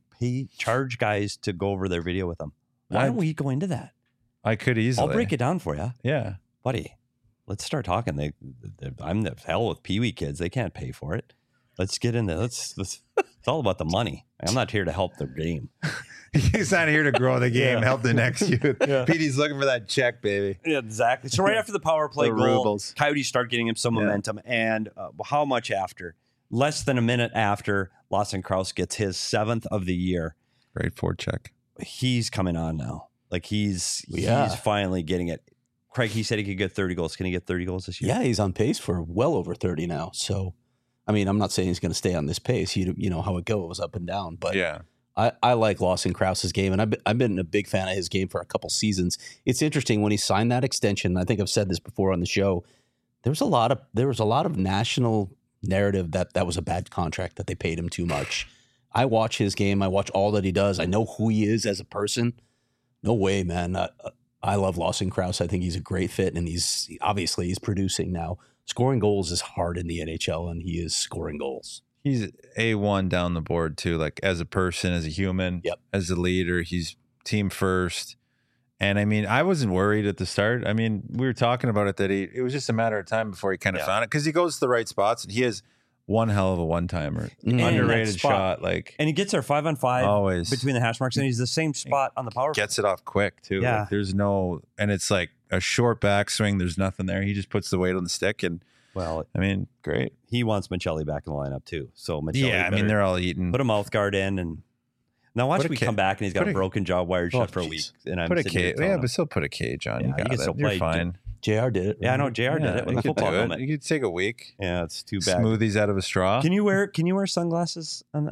A: charge guys to go over their video with them. Why don't we go into that?
B: I could easily.
A: I'll break it down for you,
B: Yeah.
A: buddy. Let's start talking. I'm the hell with Pee Wee kids. They can't pay for it. Let's get in there. It's all about the money. I'm not here to help the game.
B: He's not here to grow the game, help the next youth. Petey's looking for that check, baby.
A: Yeah, exactly. So right after the power play
B: The
A: goal,
B: rubles.
A: Coyotes start getting him some momentum. And how much after? Less than a minute after, Lawson Krause gets his 7th of the year.
B: Great forecheck.
A: He's coming on now. Like he's finally getting it. Craig, he said he could get 30 goals. Can he get 30 goals this year?
C: Yeah, he's on pace for well over 30 now. So, I mean, I'm not saying he's going to stay on this pace. You know how it goes up and down. But
B: Yeah.
C: I like Lawson Krause's game, and I've been a big fan of his game for a couple seasons. It's interesting when he signed that extension. I think I've said this before on the show. There was a lot of national narrative that was a bad contract, that they paid him too much. I watch his game. I watch all that he does. I know who he is as a person. No way, man. I love Lawson Krause. I think he's a great fit, and he's producing now. Scoring goals is hard in the NHL, and he is scoring goals.
B: He's A1 down the board too, like as a person, as a human, as a leader. He's team first. And I mean, I wasn't worried at the start. I mean, we were talking about it that it was just a matter of time before he kind of found it, because he goes to the right spots, and he has one hell of a one-timer. Underrated shot.
A: And he gets there 5-on-5
B: always
A: between the hash marks, and he's the same spot on the power play.
B: Gets it off quick too.
A: Yeah.
B: Like, there's no, and it's like a short backswing. There's nothing there. He just puts the weight on the stick, and
A: Well,
B: I mean, great.
A: He wants Michelli back in the lineup too. So Michelli,
B: Yeah, I mean, they're all eating.
A: put a mouth guard in, and now watch me come back and he's got a broken jaw wired shut for a week. And I'm
B: put a
A: sitting here
B: cage.
A: telling
B: Yeah,
A: him,
B: but still put a cage on.
A: Yeah,
B: you
A: you
B: got
A: can
B: it.
A: still
B: You're
A: play.
B: fine.
C: JR did it.
A: Yeah, I know JR did it with
B: You
A: a
B: could
A: football
B: do it.
A: helmet.
B: You could take a week.
A: Yeah, it's too bad.
B: Smoothies out of a straw.
A: Can you wear sunglasses on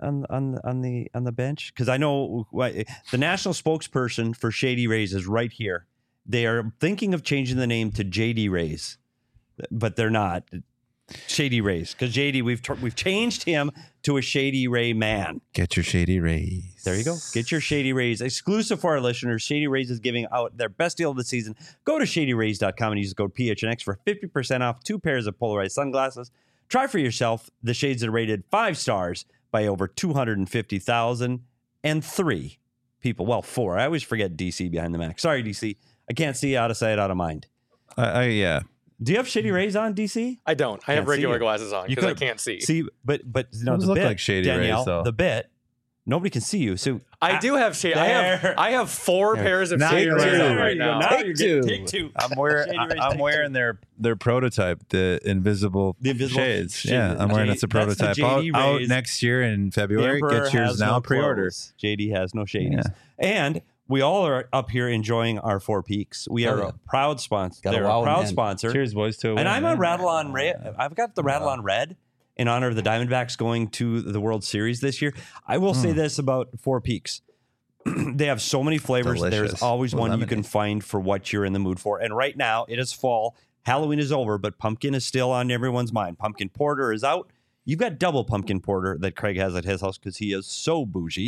A: the bench? Because I know the national spokesperson for Shady Rays is right here. They are thinking of changing the name to JD Rays, but they're not. Shady Rays, because JD, we've changed him to a Shady Ray man.
B: Get your Shady Rays.
A: There you go. Get your Shady Rays. Exclusive for our listeners, Shady Rays is giving out their best deal of the season. Go to shadyrays.com and use the code PHNX for 50% off 2 pairs of polarized sunglasses. Try for yourself the shades that are rated 5 stars by over 250,000 and 3 people. Well, 4. I always forget DC behind the Mac. Sorry, DC. I can't see out of sight, out of mind.
B: Yeah.
A: Do you have Shady Rays on, DC?
D: I don't. I have
A: Can't see
D: regular
A: it.
D: glasses on
A: You
D: because I
A: could-
D: can't see.
A: See, but no,
B: Those
A: the
B: look
A: bit,
B: like Shady Rays,
A: Danielle,
B: though.
A: the bit, nobody can see you. So
D: I do have shade.
A: There.
D: I have 4 pairs of
B: Now
D: shade
B: you're
D: rays
B: right.
D: on right now.
A: Now
C: Take
A: you're
C: two.
A: getting take 2.
B: I'm wearing
A: Shady Rays
B: I'm
A: take
B: wearing their prototype, the invisible
A: shades.
B: shades. Yeah, I'm wearing it's a
A: That's the
B: prototype
A: JD
B: out
A: Rays.
B: next year in
A: The
B: February.
A: Emperor
B: Get yours
A: has
B: now,
A: no
B: pre-order.
A: clothes. JD has no shadies.
B: Yeah.
A: And we all are up here enjoying our 4 Peaks. We are
C: yeah.
A: a proud sponsor.
C: Gotta
A: They're
C: wow
A: a
C: 'em,
A: proud
C: man.
A: sponsor.
B: Cheers, boys, to a
A: And
B: win,
A: I'm
B: man.
A: a Rattle on Red. I've got the Rattle on Red. in honor of the Diamondbacks going to the World Series this year. I will say this about Four Peaks. They have so many flavors.
B: Delicious.
A: There's always
B: With
A: one you
B: lemonade.
A: can find for what you're in the mood for. And right now, it is fall. Halloween is over, but pumpkin is still on everyone's mind. Pumpkin porter is out. You've got double pumpkin porter that Craig has at his house because he is so bougie.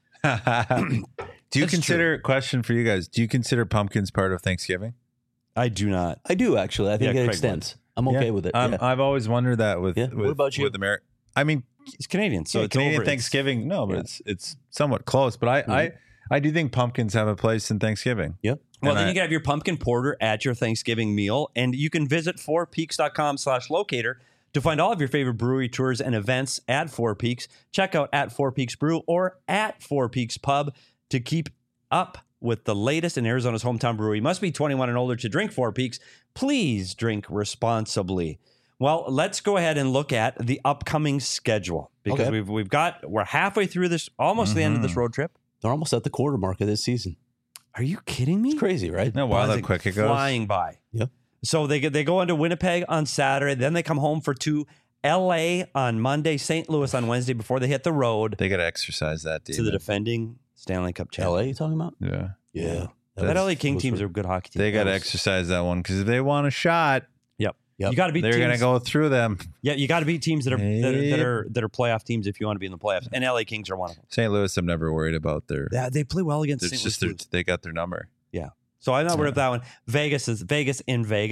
B: Do you
A: That's
B: consider, question for you guys, do you consider pumpkins part of Thanksgiving?
A: I do not.
C: I do actually. I think
A: Yeah,
C: it
A: Craig
C: extends. I'm okay with it. Yeah.
B: I've always wondered that with,
C: Yeah.
B: with
C: What about you?
B: with America. I mean,
A: It's Canadian, so
B: yeah,
A: it's
B: Canadian
A: over. It's-
B: Thanksgiving. No, but
A: yeah.
B: it's somewhat close. But I do think pumpkins have a place in Thanksgiving.
C: Yep.
A: Well,
B: And
A: then
B: I-
A: you can have your pumpkin porter at your Thanksgiving meal, and you can visit fourpeaks.com/locator to find all of your favorite brewery tours and events at Four Peaks. Check out at Four Peaks Brew or at Four Peaks Pub to keep up with the latest in Arizona's hometown brewery. You must be 21 and older to drink Four Peaks. Please drink responsibly. Well, let's go ahead and look at the upcoming schedule because
C: Okay.
A: we're halfway through this, almost the end of this road trip.
C: They're almost at the quarter mark of this season.
A: Are you kidding me?
C: It's crazy, right?
B: No, wow, how
A: Buzzing,
B: quick it goes.
A: flying by.
C: Yep.
A: So they go into Winnipeg on Saturday, then they come home for 2, LA on Monday, St. Louis on Wednesday before they hit the road
B: They got to exercise that,
A: to the
B: demon.
A: defending Stanley Cup
C: LA,
A: champion.
C: you talking about?
B: Yeah.
C: Yeah.
A: That LA King teams are good hockey teams.
B: They got to
C: was-
B: exercise that one because if they want a shot,
C: Yep.
A: You got to beat
B: they're
A: teams.
B: going to go through them.
A: Yeah, you got to beat teams that are
B: Yep.
A: that are playoff teams if you want to be in the playoffs. And LA Kings are one of them.
B: St. Louis, I'm never worried about their.
A: Yeah, they play well against
B: It's
A: St.
B: just
A: Louis.
B: they got their number.
A: So I'm not worried about that one. Vegas in Vegas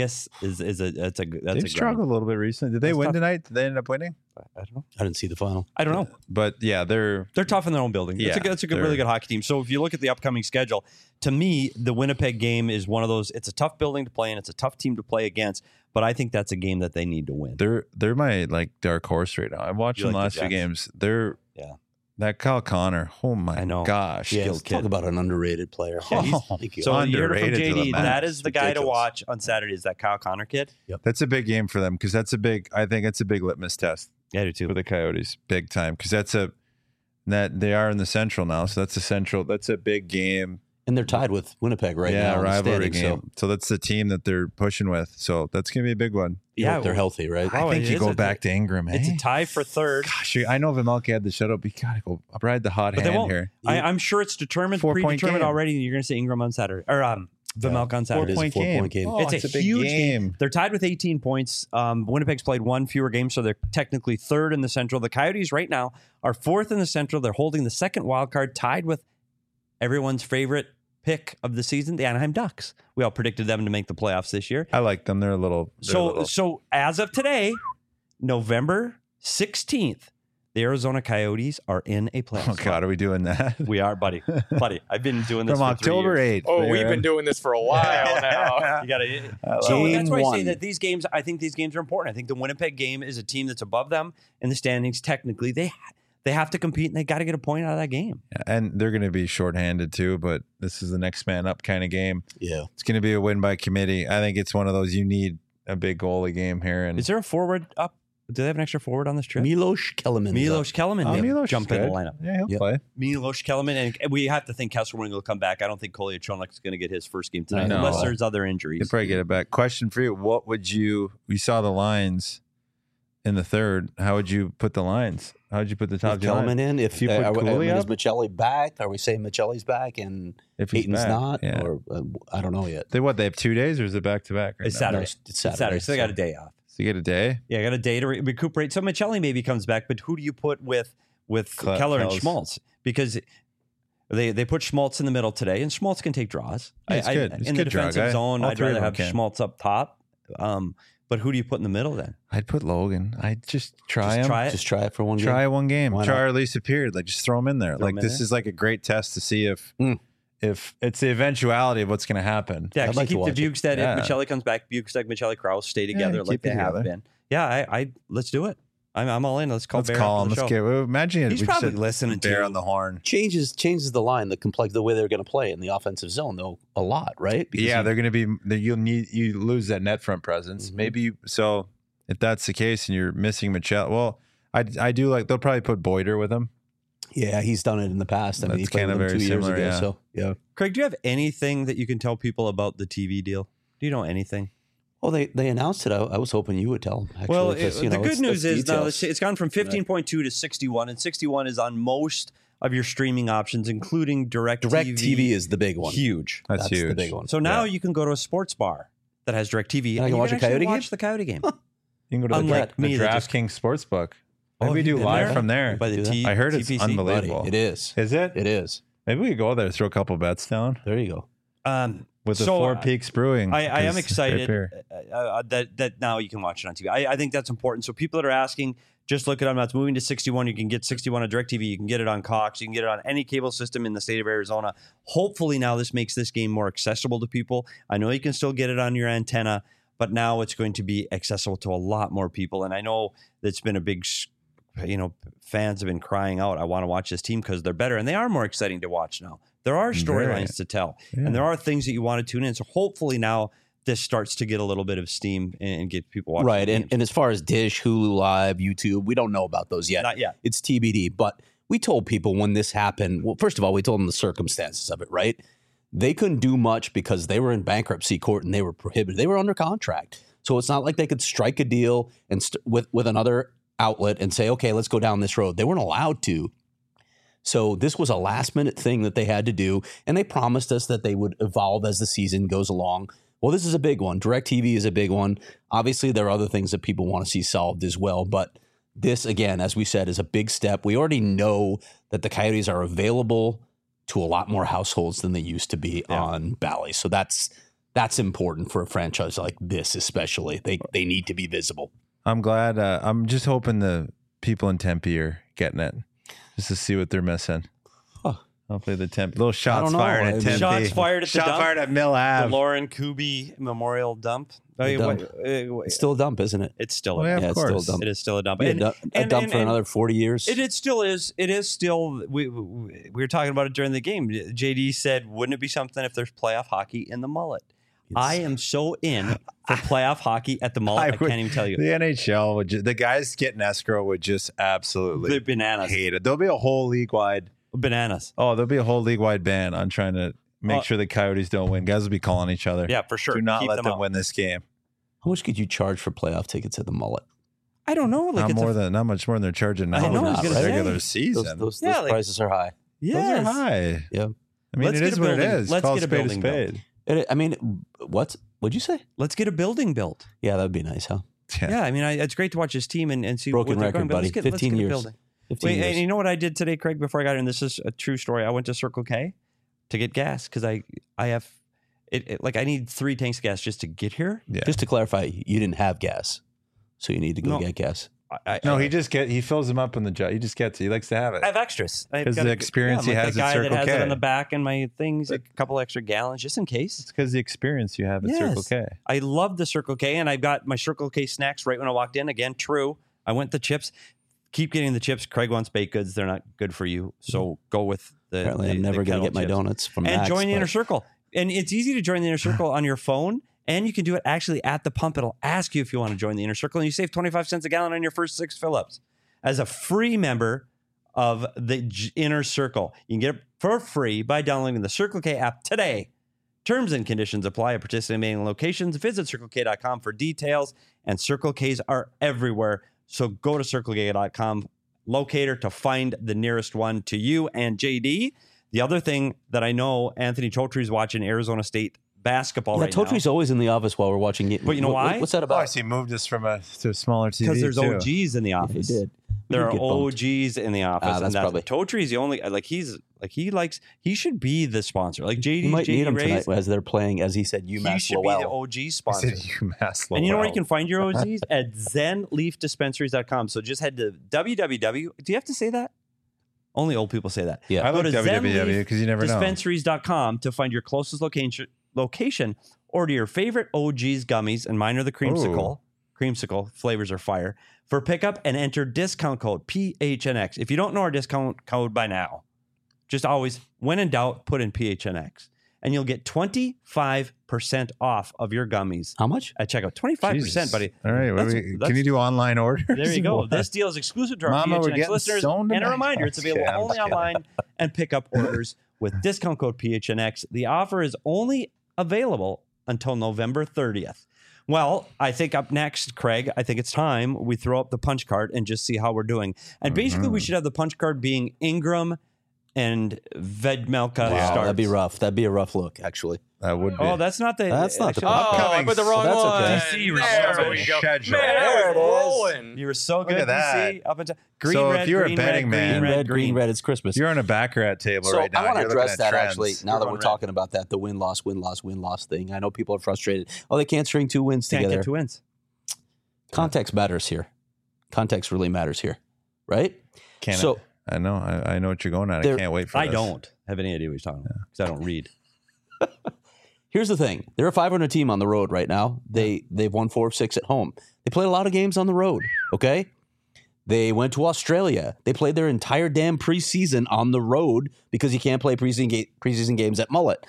A: is a
B: They've struggled a little bit recently. Did they
A: That's
B: win
A: tough.
B: tonight? Did they end up winning?
A: I don't know.
C: I didn't see the final.
A: I don't know.
B: But yeah, they're
A: They're tough in their own building.
B: Yeah,
A: It's a good,
B: they're-
A: really good hockey team. So if you look at the upcoming schedule, to me, the Winnipeg game is one of those. It's a tough building to play in. It's a tough team to play against. But I think that's a game that they need to win.
B: they're my like dark horse right now. I watched
A: You
B: them
A: like
B: last
A: the
B: few
A: Jets?
B: games. They're
A: Yeah.
B: that Kyle Connor. Oh my
A: I know.
B: gosh.
C: Yeah,
A: Skilled
C: let's talk
A: kid.
C: about an underrated player.
B: Yeah, he's-
C: Thank you.
A: So you heard it from
B: Underrated to the
A: JD.
B: max.
A: That is the guy to
C: Ridiculous.
A: watch on Saturday. Is that Kyle Connor kid?
B: That's a big game for them because that's a big. I think it's a big litmus test
A: Yeah, I do too.
B: for the Coyotes, big time. Because that they are in the Central now, so that's a Central. That's a big game.
C: And they're tied with Winnipeg right
B: yeah,
C: now. in the
B: rivalry
C: standings,
B: game. So that's the team that they're pushing with. So that's gonna be a big one.
C: Yeah,
A: Yeah,
C: they're healthy, right?
A: Wow.
B: I think
A: it
B: you
A: is
B: go
A: a-
B: back to Ingram.
A: It's
B: eh?
A: a tie for third.
B: Gosh, I know Vimmelke had the shutout, but you gotta go ride the hot
A: But they
B: hand
A: won't.
B: here.
A: I'm sure it's determined,
B: 4-point
A: predetermined
B: game.
A: already. You're going to see Ingram on Saturday or Vimmelke on Saturday.
C: It is a 4-point game.
B: Oh,
A: It's a
B: big
A: huge
B: game.
A: They're tied with 18 points. Winnipeg's played one fewer game, so they're technically third in the Central. The Coyotes right now are fourth in the Central. They're holding the second wild card, tied with everyone's favorite pick of the season, the Anaheim Ducks. We all predicted them to make the playoffs this year.
B: I like them. They're a little.
A: So as of today, November 16th, the Arizona Coyotes are in a playoff
B: Oh
A: spot.
B: God, are we doing that?
A: We are, buddy. Buddy, I've been doing this
B: From
A: for 3
B: October
A: years.
B: 8th.
D: Oh, we've
B: Aaron.
D: been doing this for a while now.
A: You gotta.
B: love
A: So
C: it.
A: that's why I say
C: Game
A: that these games. I think these games are important. I think the Winnipeg game is a team that's above them in the standings. Technically, they have to compete and they got to get a point out of that game.
B: And they're going to be shorthanded too, but this is the next man up kind of game.
C: Yeah.
B: It's going to be a win by committee. I think it's one of those you need a big goalie game here. And
A: Is there a forward up? Do they have an extra forward on this trip?
C: Milos Kellerman.
A: Milos Kellerman may
B: Milos is
A: jump in the
B: good.
A: lineup.
B: Yeah, he'll
C: Yep.
B: play.
A: Milos Kellerman, and we have to think Kesselring will come back. I don't think Kolya Chonok is going to get his first game tonight
B: No.
A: unless there's other
B: He'll
A: injuries.
B: probably get it back. Question for you: what would you? We saw the lines in the third. How would you put the lines? How would you put the top
C: With
B: two lines?
C: Kellerman in. If
B: you put Cooley
C: is
B: up?
C: Michelli back? Are we saying Michelli's back and
B: If he's
C: Peyton's
B: back,
C: not?
B: yeah.
C: Or I don't know yet.
B: They have 2 days or is it back to back?
A: It's
B: now?
A: Saturday.
C: No, it's
A: It's Saturday, so they got a day off.
B: So you get a day.
A: Yeah, I got a day to recuperate. So Michelli maybe comes back, but who do you put with Keller and
B: Kells.
A: Schmaltz? Because they put Schmaltz in the middle today, and Schmaltz can take draws.
B: Yeah, he's good. He's
A: in
B: a
A: the
B: good draw
A: defensive
B: guy.
A: zone,
B: All
A: I'd
B: three of
A: rather
B: them
A: have
B: can.
A: Schmaltz up top. But who do you put in the middle then?
B: I'd put Logan. I'd just try
A: Just
B: him.
A: try it.
C: Just try it for one game.
B: Try one game.
C: Why
B: Try
C: not?
B: or at least a period. Like just throw him in there.
A: Throw
B: like
A: him in
B: this
A: there.
B: is like a great test to see if
C: Mm.
B: it's the eventuality of what's going to happen.
A: Yeah,
C: I'd
A: actually
C: like to
A: keep the
C: watch
A: Bukestad.
B: Yeah.
A: If Michelli comes back, Bukestad, Michelli, Krause stay together
B: keep
A: like they
B: it
A: have
B: together.
A: been. Yeah, I let's do it. I'm all in. Let's call
B: Let's
A: Bear
B: call
A: after
B: him.
A: the
B: Let's
A: show.
B: get. Well, imagine it.
A: He's
B: we just
A: probably
B: said
A: listening to
B: Bear
A: you.
B: on the horn.
C: changes the line, the way they're going to play in the offensive zone though a lot, right? Because
B: Yeah,
C: you-
B: they're going to be. You lose that net front presence.
C: Mhm.
B: Maybe so. If that's the case, and you're missing Michelle, well, I do like. They'll probably put Boyder with him.
C: yeah, he's done it in the past. I mean, he
B: That's
C: played
B: kinda
C: with them
B: very
C: 2 years
B: similar,
C: ago.
B: yeah.
C: So yeah,
A: Craig, do you have anything that you can tell people about the TV deal? Do you know anything?
C: Oh, they announced it. I was hoping you would tell them. Actually,
A: Well,
C: 'cause,
A: the good news is now
C: details.
A: it's gone from 15.2 to 61, and 61 is on most of your streaming options, including
C: DirecTV is the big one.
A: Huge.
B: That's
C: the
B: huge.
C: big one.
A: So now you can go to a sports bar that has DirecTV,
C: And I can
A: you
C: watch a
A: actually
C: Coyote game?
A: watch the Coyote game.
B: You can go to
A: Unlike
B: the
A: me, that just-
B: DraftKings Sportsbook.
C: Oh,
B: Maybe we
C: have
B: do
C: you been
B: live
C: there?
B: from there.
A: By the
C: Do that?
A: T-
B: I heard it's
A: TPC.
B: unbelievable.
C: Buddy, it is.
B: Is it?
C: It is.
B: Maybe we go there, throw a couple bets down
C: There you go.
B: with the
A: So,
B: Four Peaks Brewing.
A: I am
B: 'cause
A: excited
B: great beer.
A: that now you can watch it on TV. I think that's important. So people that are asking, just look at them. That's moving to 61. You can get 61 on DirecTV. You can get it on Cox. You can get it on any cable system in the state of Arizona. Hopefully now this makes this game more accessible to people. I know you can still get it on your antenna, but now it's going to be accessible to a lot more people. And I know that's been a big, fans have been crying out, I want to watch this team because they're better. And they are more exciting to watch now. There are storylines to tell.
B: Yeah.
A: And there are things that you want to tune in. So hopefully now this starts to get a little bit of steam and get people watching.
C: Right.
A: the
C: And,
A: games.
C: and as far as Dish, Hulu Live, YouTube, we don't know about those yet.
A: Not yet.
C: It's TBD. But we told people when this happened, well, first of all, we told them the circumstances of it, right? They couldn't do much because they were in bankruptcy court and they were prohibited. They were under contract. So it's not like they could strike a deal and with another outlet and say, okay, let's go down this road. They weren't allowed to. So this was a last minute thing that they had to do. And they promised us that they would evolve as the season goes along. Well, this is a big one. DirecTV is a big one. Obviously, there are other things that people want to see solved as well. But this, again, as we said, is a big step. We already know that the Coyotes are available to a lot more households than they used to be on Bally. So that's important for a franchise like this, especially. They need to be visible.
B: I'm glad. I'm just hoping the people in Tempe are getting it just to see what they're missing.
C: Huh.
B: Hopefully the Tempe. Little shots
C: know.
B: fired at Tempe.
A: Shots fired at the
B: Shot
A: dump.
B: fired at Mill
A: The
B: Ave.
A: Lauren Kuby Memorial Dump.
C: The dump.
A: It's
C: It's still a dump, isn't it?
A: still
B: Oh,
A: a
B: yeah,
A: dump.
B: of
C: it's still a
B: course.
C: dump.
A: It is still a dump.
C: Yeah,
A: And-
C: a dump for another 40 years.
A: It still is. It is still. We were talking about it during the game. JD said, "Wouldn't it be something if there's playoff hockey in the Mullet?" I am so in for playoff hockey at the Mullet. I can't even tell you.
B: The NHL would the guys getting escrow would just absolutely
A: They're bananas.
B: hate it. There'll be a whole league wide.
A: Bananas.
B: Oh, there'll be a whole league wide ban on trying to make
A: Oh.
B: sure the Coyotes don't win. Guys will be calling each other.
A: Yeah, for sure.
B: Do not
A: Keep
B: let them
A: out.
B: win this game.
C: How much could you charge for playoff tickets at the Mullet?
A: I don't know. Like
B: Not much more than they're charging now.
A: I know, I was
B: in
A: gonna
B: the
A: say.
B: regular season.
C: Those
A: Yeah, like-
C: prices are high.
A: yes.
B: Those are high.
C: Yeah.
B: I mean,
A: Let's
B: it
A: get
B: is
A: a
B: what it
A: building-
B: is.
A: let's
B: Call
A: get a
B: spade
A: building built.
B: spade.
C: I mean, what'd you say?
A: Let's get a building built.
C: Yeah, that'd be nice, huh?
A: Yeah, I mean, it's great to watch this team and see
C: Broken
A: what they're
C: record,
A: going. But
C: buddy.
A: let's get
C: 15
A: a
C: years.
A: building.
C: 15
A: Wait,
C: years.
A: and you know what I did today, Craig? Before I got here, and this is a true story. I went to Circle K to get gas because I have like I need 3 tanks of gas just to get here.
B: Yeah.
C: Just to clarify, you didn't have gas, so you need to go
A: No.
C: get gas.
B: No, he fills them up in the jar. He just gets it. He likes to have it.
A: I have extras. I've
B: 'Cause
A: got
B: the experience he
A: like
B: has
A: the
B: at
A: guy
B: Circle
A: that has
B: K.
A: it on the back and my things, a couple extra gallons just in case.
B: It's because the experience you have at
A: Yes.
B: Circle K.
A: I love the Circle K, and I've got my Circle K snacks right when I walked in. Again, true. I went the chips. Keep getting the chips. Craig wants baked goods. They're not good for you, so go with the.
C: Apparently,
A: the,
C: I'm never
A: the
C: going to
A: kettle
C: get my
A: chips.
C: donuts from
A: And
C: Max,
A: join the
C: but-
A: inner circle. And it's easy to join the inner circle on your phone. And you can do it actually at the pump. It'll ask you if you want to join the inner circle. And you save 25 cents a gallon on your first 6 fill-ups. As a free member of the inner circle, you can get it for free by downloading the Circle K app today. Terms and conditions apply at participating locations. Visit CircleK.com for details. And Circle Ks are everywhere. So go to CircleK.com locator to find the nearest one to you. And JD, the other thing that I know Anthony Chotry's watching Arizona State basketball
C: Yeah,
A: right now.
C: Totry's always in the office while we're watching it.
A: But you know why?
C: What's that
B: Oh, I
C: about?
B: see. Moved us from to a smaller TV.
A: Because there's
B: too.
A: OGs in the
C: Yeah, he
A: office.
C: did. He
A: There
C: did
A: are
C: get bumped.
A: OGs in the office.
C: That's probably-
A: Totry's the only he should be the sponsor. Like JD,
C: You might need him
A: Rays,
C: tonight as they're playing, as he said,
A: he
C: UMass
A: should be the
C: Lowell.
A: OG
B: I
A: sponsor.
B: said UMass
A: And you know where
B: Lowell.
A: you can find your OGs? At zenleafdispensaries.com. So just head to www. Do you have to say that? Only old people say that.
C: Yeah.
B: I
A: Go
B: like
A: to
B: www because you never know.
A: Dispensaries.com to find your closest location. Order your favorite OG's gummies, and mine are the creamsicle. Creamsicle flavors are fire for pickup and enter discount code PHNX. If you don't know our discount code by now, just always, when in doubt, put in PHNX and you'll get 25% off of your gummies
C: How much?
A: at checkout. 25%,
B: Jesus.
A: buddy.
B: All right.
A: That's-
B: Can you do online orders?
A: There you go.
B: What?
A: This deal is exclusive to our
B: Mama, we're
A: PHNX
B: getting
A: listeners.
B: stoned
A: And a
B: tonight.
A: reminder, it's available
B: Okay, I'm
A: only
B: kidding.
A: online and pickup orders with discount code PHNX. The offer is only available until November 30th. Well, I think up next, Craig, I think it's time we throw up the punch card and just see how we're doing. And basically, we should have the punch card being Ingram and Vedmelka starts.
C: That'd be rough. That'd be a rough look, actually.
B: That would be.
A: Oh, that's not the.
C: That's not the
A: actually-
C: punch
D: Oh, I put the wrong
C: That's
D: one.
C: okay.
A: DC,
D: There we go.
B: schedule.
D: Man,
C: There it
D: I was rolling.
A: You were so good,
B: at that.
A: DC. Up until green,
B: So if
A: red,
B: you're a
A: green,
B: betting
A: red,
B: man-
A: green, red,
C: green, red. It's Christmas.
B: You're on a baccarat table
C: So
B: right now.
C: I want to
B: You're looking
C: address
B: at
C: that
B: trends.
C: actually. Now that
A: You're
C: we're
A: on
C: talking about that, the win loss thing. I know people are frustrated. Oh, they can't string 2 wins
A: Can't
C: together.
A: get 2 wins.
C: Context matters here. Context really matters here, right?
B: Can't
C: So-
B: I know. I know what you're going at. I
C: There-
B: can't wait for
A: I
B: this.
A: don't have any idea what you're talking about because I don't read.
C: Here's the thing: they're a 500 team on the road right now. They've won 4 of 6 at home. They played a lot of games on the road. Okay, they went to Australia. They played their entire damn preseason on the road because you can't play preseason games at Mullet.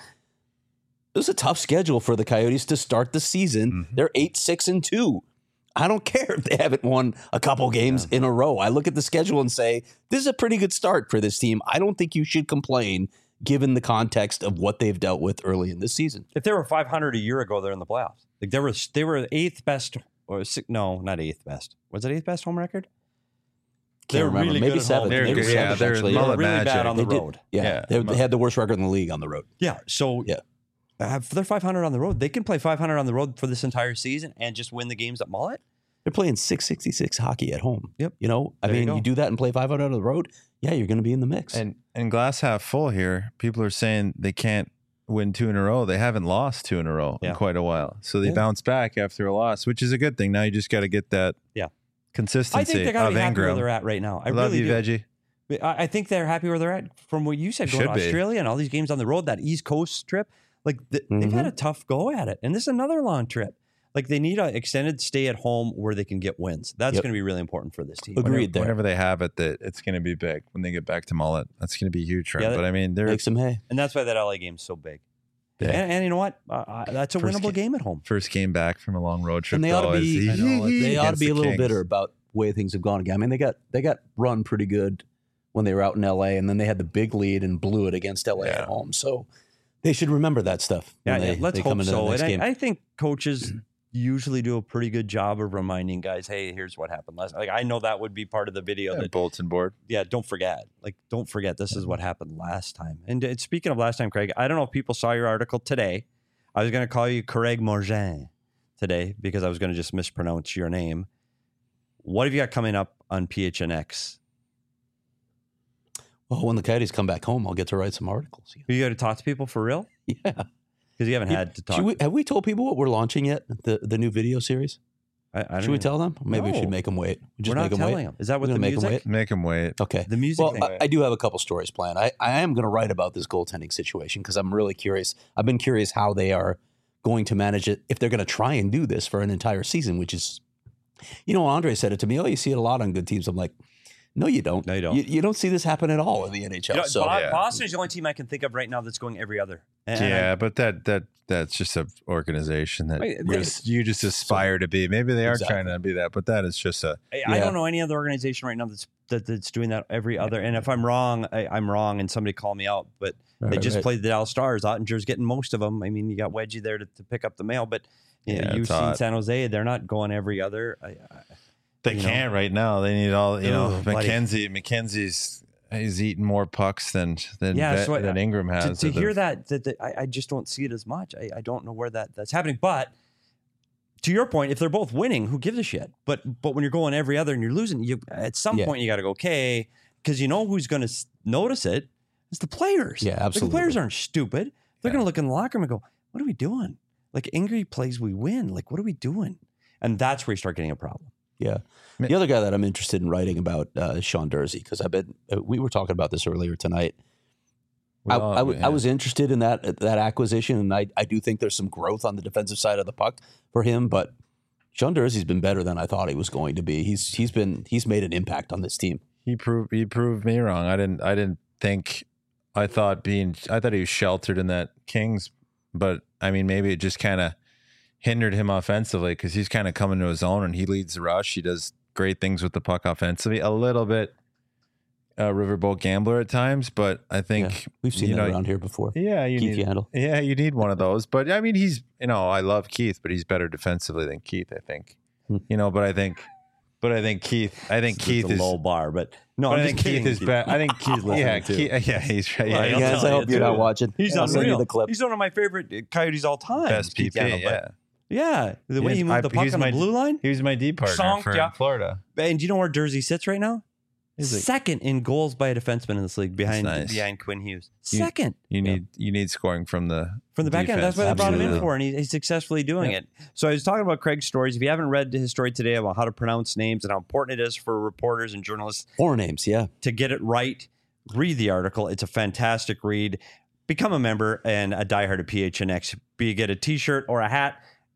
C: It was a tough schedule for the Coyotes to start the season. They're 8-6-2. I don't care if they haven't won a couple games in a row. I look at the schedule and say, this is a pretty good start for this team. I don't think you should complain given the context of what they've dealt with early in this season.
A: If they were 500 a year ago, they're in the playoffs. Like they were eighth best, or no, not eighth best. Was it eighth best home record? They're
C: remember.
A: really
C: Maybe
A: good at home.
C: seventh.
B: They're
C: Maybe
B: good.
C: seventh,
B: Yeah, they're
C: actually.
B: mullet
A: really
B: magic.
A: bad on the
C: They did.
A: road.
C: Yeah,
B: Yeah.
C: they had the worst record in the league on the road.
A: Yeah, so
C: Yeah.
A: If they're 500 on the road, they can play 500 on the road for this entire season and just win the games at Mullet.
C: They're playing 666 hockey at home.
A: Yep.
C: You know, I
A: There you
C: mean,
A: go.
C: you do that and play 500 on the road, yeah, you're going to be in the mix.
B: And glass half full here. People are saying they can't win 2 in a row. They haven't lost 2 in a row
A: Yeah.
B: in quite a while. So they
C: Yeah.
B: bounce back after a loss, which is a good thing. Now you just got to get that
A: Yeah.
B: consistency
A: I think they got to
B: of
A: be happy where
B: Ingram.
A: they're at right now. I
B: Love
A: really
B: you,
A: do.
B: Veggie.
A: I think they're happy where they're at from what you said, going
B: Should
A: to
B: be.
A: Australia and all these games on the road, that East Coast trip. Like they've had a tough go at it. And this is another long trip. Like they need an extended stay at home where they can get wins. That's
C: Yep.
A: going to be really important for this team.
C: Agreed there.
B: Whenever they have it, that it's going to be big when they get back to Mullet. That's going to be huge for
A: Yeah,
B: them. But I mean, they're
C: Make some hay.
A: And that's why that LA game's so big.
B: Yeah.
A: And you know what? That's a
B: First
A: winnable game at home.
B: first game back from a long road trip.
C: And they ought
B: though,
C: to be,
B: is
C: they ought to
B: against
C: be a
B: the
C: little
B: Kings.
C: bitter about the way things have gone again. I mean, they got run pretty good when they were out in LA, and then they had the big lead and blew it against LA at home. So they should remember that stuff.
A: Yeah,
C: when
A: let's
C: they come
A: hope
C: into
A: so.
C: the next
A: And
C: game.
A: I think coaches usually do a pretty good job of reminding guys, hey, here's what happened last. Like I know that would be part of the video
B: Yeah,
A: that
B: bulletin board.
A: don't forget. Like, don't forget this is what happened last time. And speaking of last time, Craig, I don't know if people saw your article today. I was going to call you Craig Morgan today because I was going to just mispronounce your name. What have you got coming up on PHNX?
C: Well, when the Coyotes come back home, I'll get to write some articles.
A: You got to talk to people for real?
C: Yeah.
A: Because you haven't had to talk.
C: Have we told people what we're launching yet? The new video series?
A: I don't
C: Should we
A: even-
C: tell them? Maybe we
A: No.
C: should make them wait. Just
A: We're not
C: make them
A: telling
C: wait.
A: them. Is that what
C: We're
A: the
C: gonna make 'em
A: music?
C: wait.
B: Make them wait.
C: Okay.
A: The music
C: Well,
A: thing.
C: I do have a couple stories planned. I am going to write about this goaltending situation because I'm really curious. I've been curious how they are going to manage it if they're going to try and do this for an entire season, which is, you know, Andre said it to me. Oh, you see it a lot on good teams. I'm like, no, you don't.
A: No, you don't.
C: You don't see this happen at all in the NHL.
A: You know,
C: so
B: yeah.
A: Boston is the only team I can think of right now that's going every other. And
B: Yeah, but that's just an organization that
A: Wait,
B: you just aspire to be. Maybe they are
C: Exactly.
B: trying to be that, but that is just a
A: I
C: Yeah.
A: don't know any other organization right now that's doing that every other. And if I'm wrong, I'm wrong, and somebody call me out. But they
C: Right,
A: just
C: right.
A: played the Dallas Stars. Ottinger's getting most of them. I mean, you got Wedgie there to pick up the mail, but you know,
B: Yeah,
A: you've
B: it's
A: seen
B: odd.
A: San Jose. They're not going every other.
B: they
A: you know.
B: can't right now. They need all
A: Ugh, buddy.
B: McKenzie's he's eating more pucks than
A: Yeah, so
B: than Ingram has.
A: to
B: at the-
A: hear that I just don't see it as much. I don't know where that's happening. But to your point, if they're both winning, who gives a shit? But when you're going every other and you're losing, you at some
C: Yeah.
A: point you got to go, okay, because you know who's going to notice it? It's the players.
C: Yeah,
A: Like,
C: absolutely.
A: the players aren't stupid. They're going to look in the locker room and go, what are we doing? Like Ingrid plays, we win. Like, what are we doing? And that's where you start getting a problem.
C: Yeah. The other guy that I'm interested in writing about is Sean Dursey because we were talking about this earlier tonight.
B: Well,
C: I was interested in that acquisition, and I do think there's some growth on the defensive side of the puck for him. But Sean Dursey's been better than I thought he was going to be. He's made an impact on this team.
B: he proved me wrong. I thought he was sheltered in that Kings, but I mean maybe it just kind of hindered him offensively because he's kind of coming to his own and he leads the rush. He does great things with the puck offensively. A little bit a riverboat gambler at times, but I think
C: we've seen that around here before.
B: Yeah,
C: Keith Yandle.
B: Yeah, you need one of those. But I mean, he's I love Keith, but he's better defensively than Keith. I think but I think Keith. I think Keith
A: is a
B: is
A: low bar, but no,
B: I think Keith is better. I think Keith. He's right.
A: Well,
B: Yeah,
C: Guys, I hope you're not watching.
A: He's
C: I'll send you
A: unreal.
C: the clip.
A: He's one of my favorite Coyotes all time.
B: best
A: Keith
B: PP.
A: Yandle, but
B: Yeah,
A: the way he moved the
B: he
A: puck
B: was
A: on the blue line.
B: He was my D partner
A: Song,
B: for
A: yeah.
B: Florida.
A: And do you know where Jersey sits right now?
B: Is it-
A: Second in goals by a defenseman in this league behind
B: That's nice.
A: Quinn Hughes.
B: You-
A: Second
B: You need scoring from the
A: back end. That's
B: defense.
A: why they brought him in
B: Absolutely.
A: for, and he's successfully doing it. So I was talking about Craig's stories. If you haven't read his story today about how to pronounce names and how important it is for reporters and journalists
C: Four names, yeah.
A: to get it right, read the article. It's a fantastic read. Become a member and a diehard of PHNX. Be you get a T-shirt or a hat.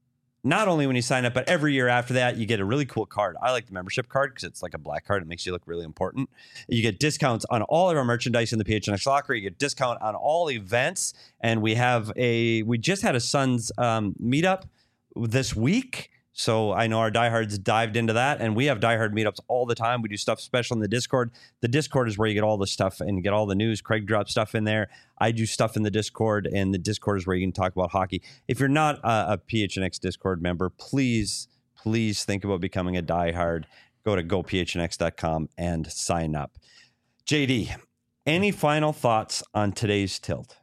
A: Not only when you sign up, but every year after that, you get a really cool card. I like the membership card because it's like a black card. It makes you look really important. You get discounts on all of our merchandise in the PHNX locker. You get discount on all events. And we just had a Suns meetup this week. So I know our diehards dived into that, and we have diehard meetups all the time. We do stuff special in the Discord. The Discord is where you get all the stuff and get all the news. Craig drops stuff in there. I do stuff in the Discord, and the Discord is where you can talk about hockey. If you're not a PHNX Discord member, please think about becoming a diehard. Go to gophnx.com and sign up. JD, any final thoughts on today's tilt?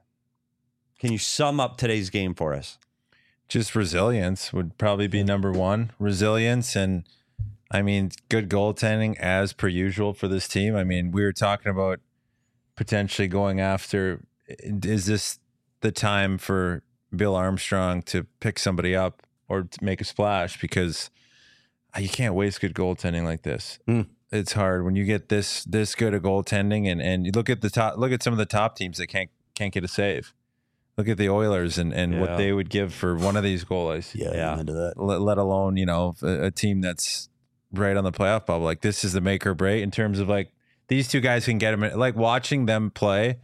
A: Can you sum up today's game for us?
B: Just resilience would probably be number one. Resilience and, I mean, good goaltending as per usual for this team. I mean, we were talking about potentially going after, is this the time for Bill Armstrong to pick somebody up or to make a splash? Because you can't waste good goaltending like this. It's hard when you get this good a goaltending, and you look at some of the top teams that can't get a save. Look at the Oilers and what they would give for one of these goalies.
C: Yeah. I'm into that.
B: Let alone, a team that's right on the playoff bubble. Like, this is the make or break in terms of, like, these two guys can get them. Like, watching them play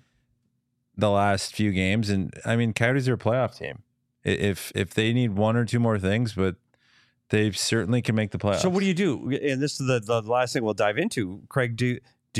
B: the last few games. And I mean, Coyotes are a playoff team. If they need one or two more things, but they certainly can make the playoffs.
A: So what do you do? And this is the last thing we'll dive into. Craig, do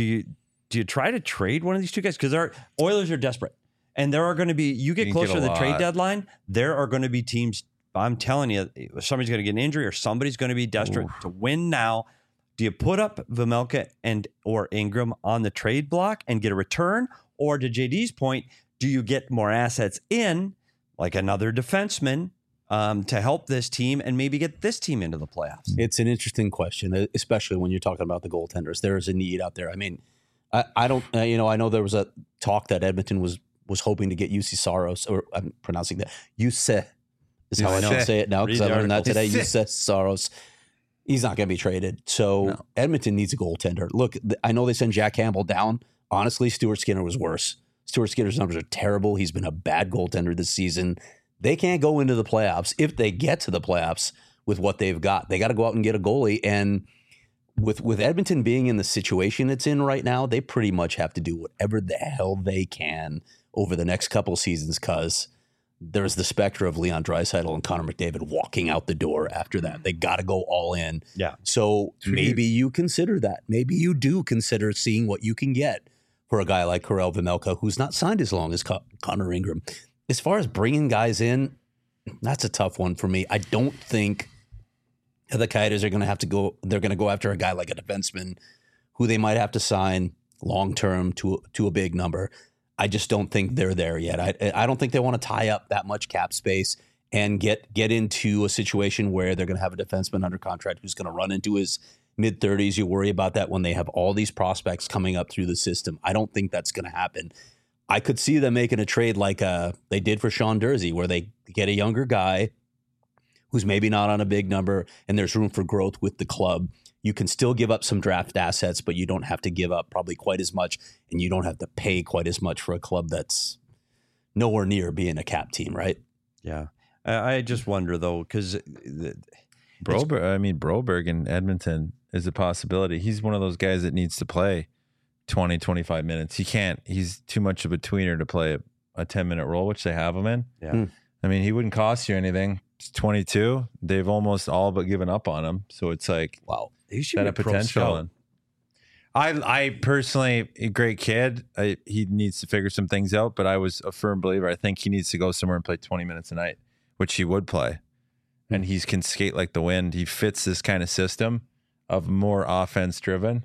A: you try to trade one of these two guys? Because our Oilers are desperate. And there are going to be, you get closer to the trade deadline, there are going to be teams, I'm telling you, somebody's going to get an injury or somebody's going to be desperate to win now. Do you put up Vejmelka or Ingram on the trade block and get a return? Or to JD's point, do you get more assets in, like another defenseman, to help this team and maybe get this team into the playoffs?
C: It's an interesting question, especially when you're talking about the goaltenders. There is a need out there. I mean, I don't, I know there was a talk that Edmonton was hoping to get UC Saros, or I'm pronouncing that. Yuse is how I know to say it now because I learned that today. Yuse Saros. He's not going to be traded. So Edmonton needs a goaltender. Look, I know they sent Jack Campbell down. Honestly, Stuart Skinner was worse. Stuart Skinner's numbers are terrible. He's been a bad goaltender this season. They can't go into the playoffs. If they get to the playoffs with what they've got, they got to go out and get a goalie. And with Edmonton being in the situation it's in right now, they pretty much have to do whatever the hell they can over the next couple of seasons, because there's the specter of Leon Draisaitl and Connor McDavid walking out the door after that. They got to go all in.
A: Yeah.
C: So maybe you consider that. Maybe you do consider seeing what you can get for a guy like Karel Vejmelka, who's not signed as long as Connor Ingram. As far as bringing guys in, that's a tough one for me. I don't think the Coyotes are going to have to go. They're going to go after a guy like a defenseman who they might have to sign long-term to a big number. I just don't think they're there yet. I don't think they want to tie up that much cap space and get into a situation where they're going to have a defenseman under contract who's going to run into his mid-30s. You worry about that when they have all these prospects coming up through the system. I don't think that's going to happen. I could see them making a trade like they did for Sean Durzi, where they get a younger guy who's maybe not on a big number and there's room for growth with the club. You can still give up some draft assets, but you don't have to give up probably quite as much, and you don't have to pay quite as much for a club that's nowhere near being a cap team, right?
A: Yeah. I just wonder, though, because
B: Broberg in Edmonton is a possibility. He's one of those guys that needs to play 20, 25 minutes. He's too much of a tweener to play a 10-minute role, which they have him in.
A: Yeah.
B: I mean, he wouldn't cost you anything. He's 22. They've almost all but given up on him. So it's like,
C: wow.
A: he should
B: that
A: be
B: a potential. I personally, a great kid. He needs to figure some things out, but I was a firm believer. I think he needs to go somewhere and play 20 minutes a night, which he would play. And he can skate like the wind. He fits this kind of system of more offense driven,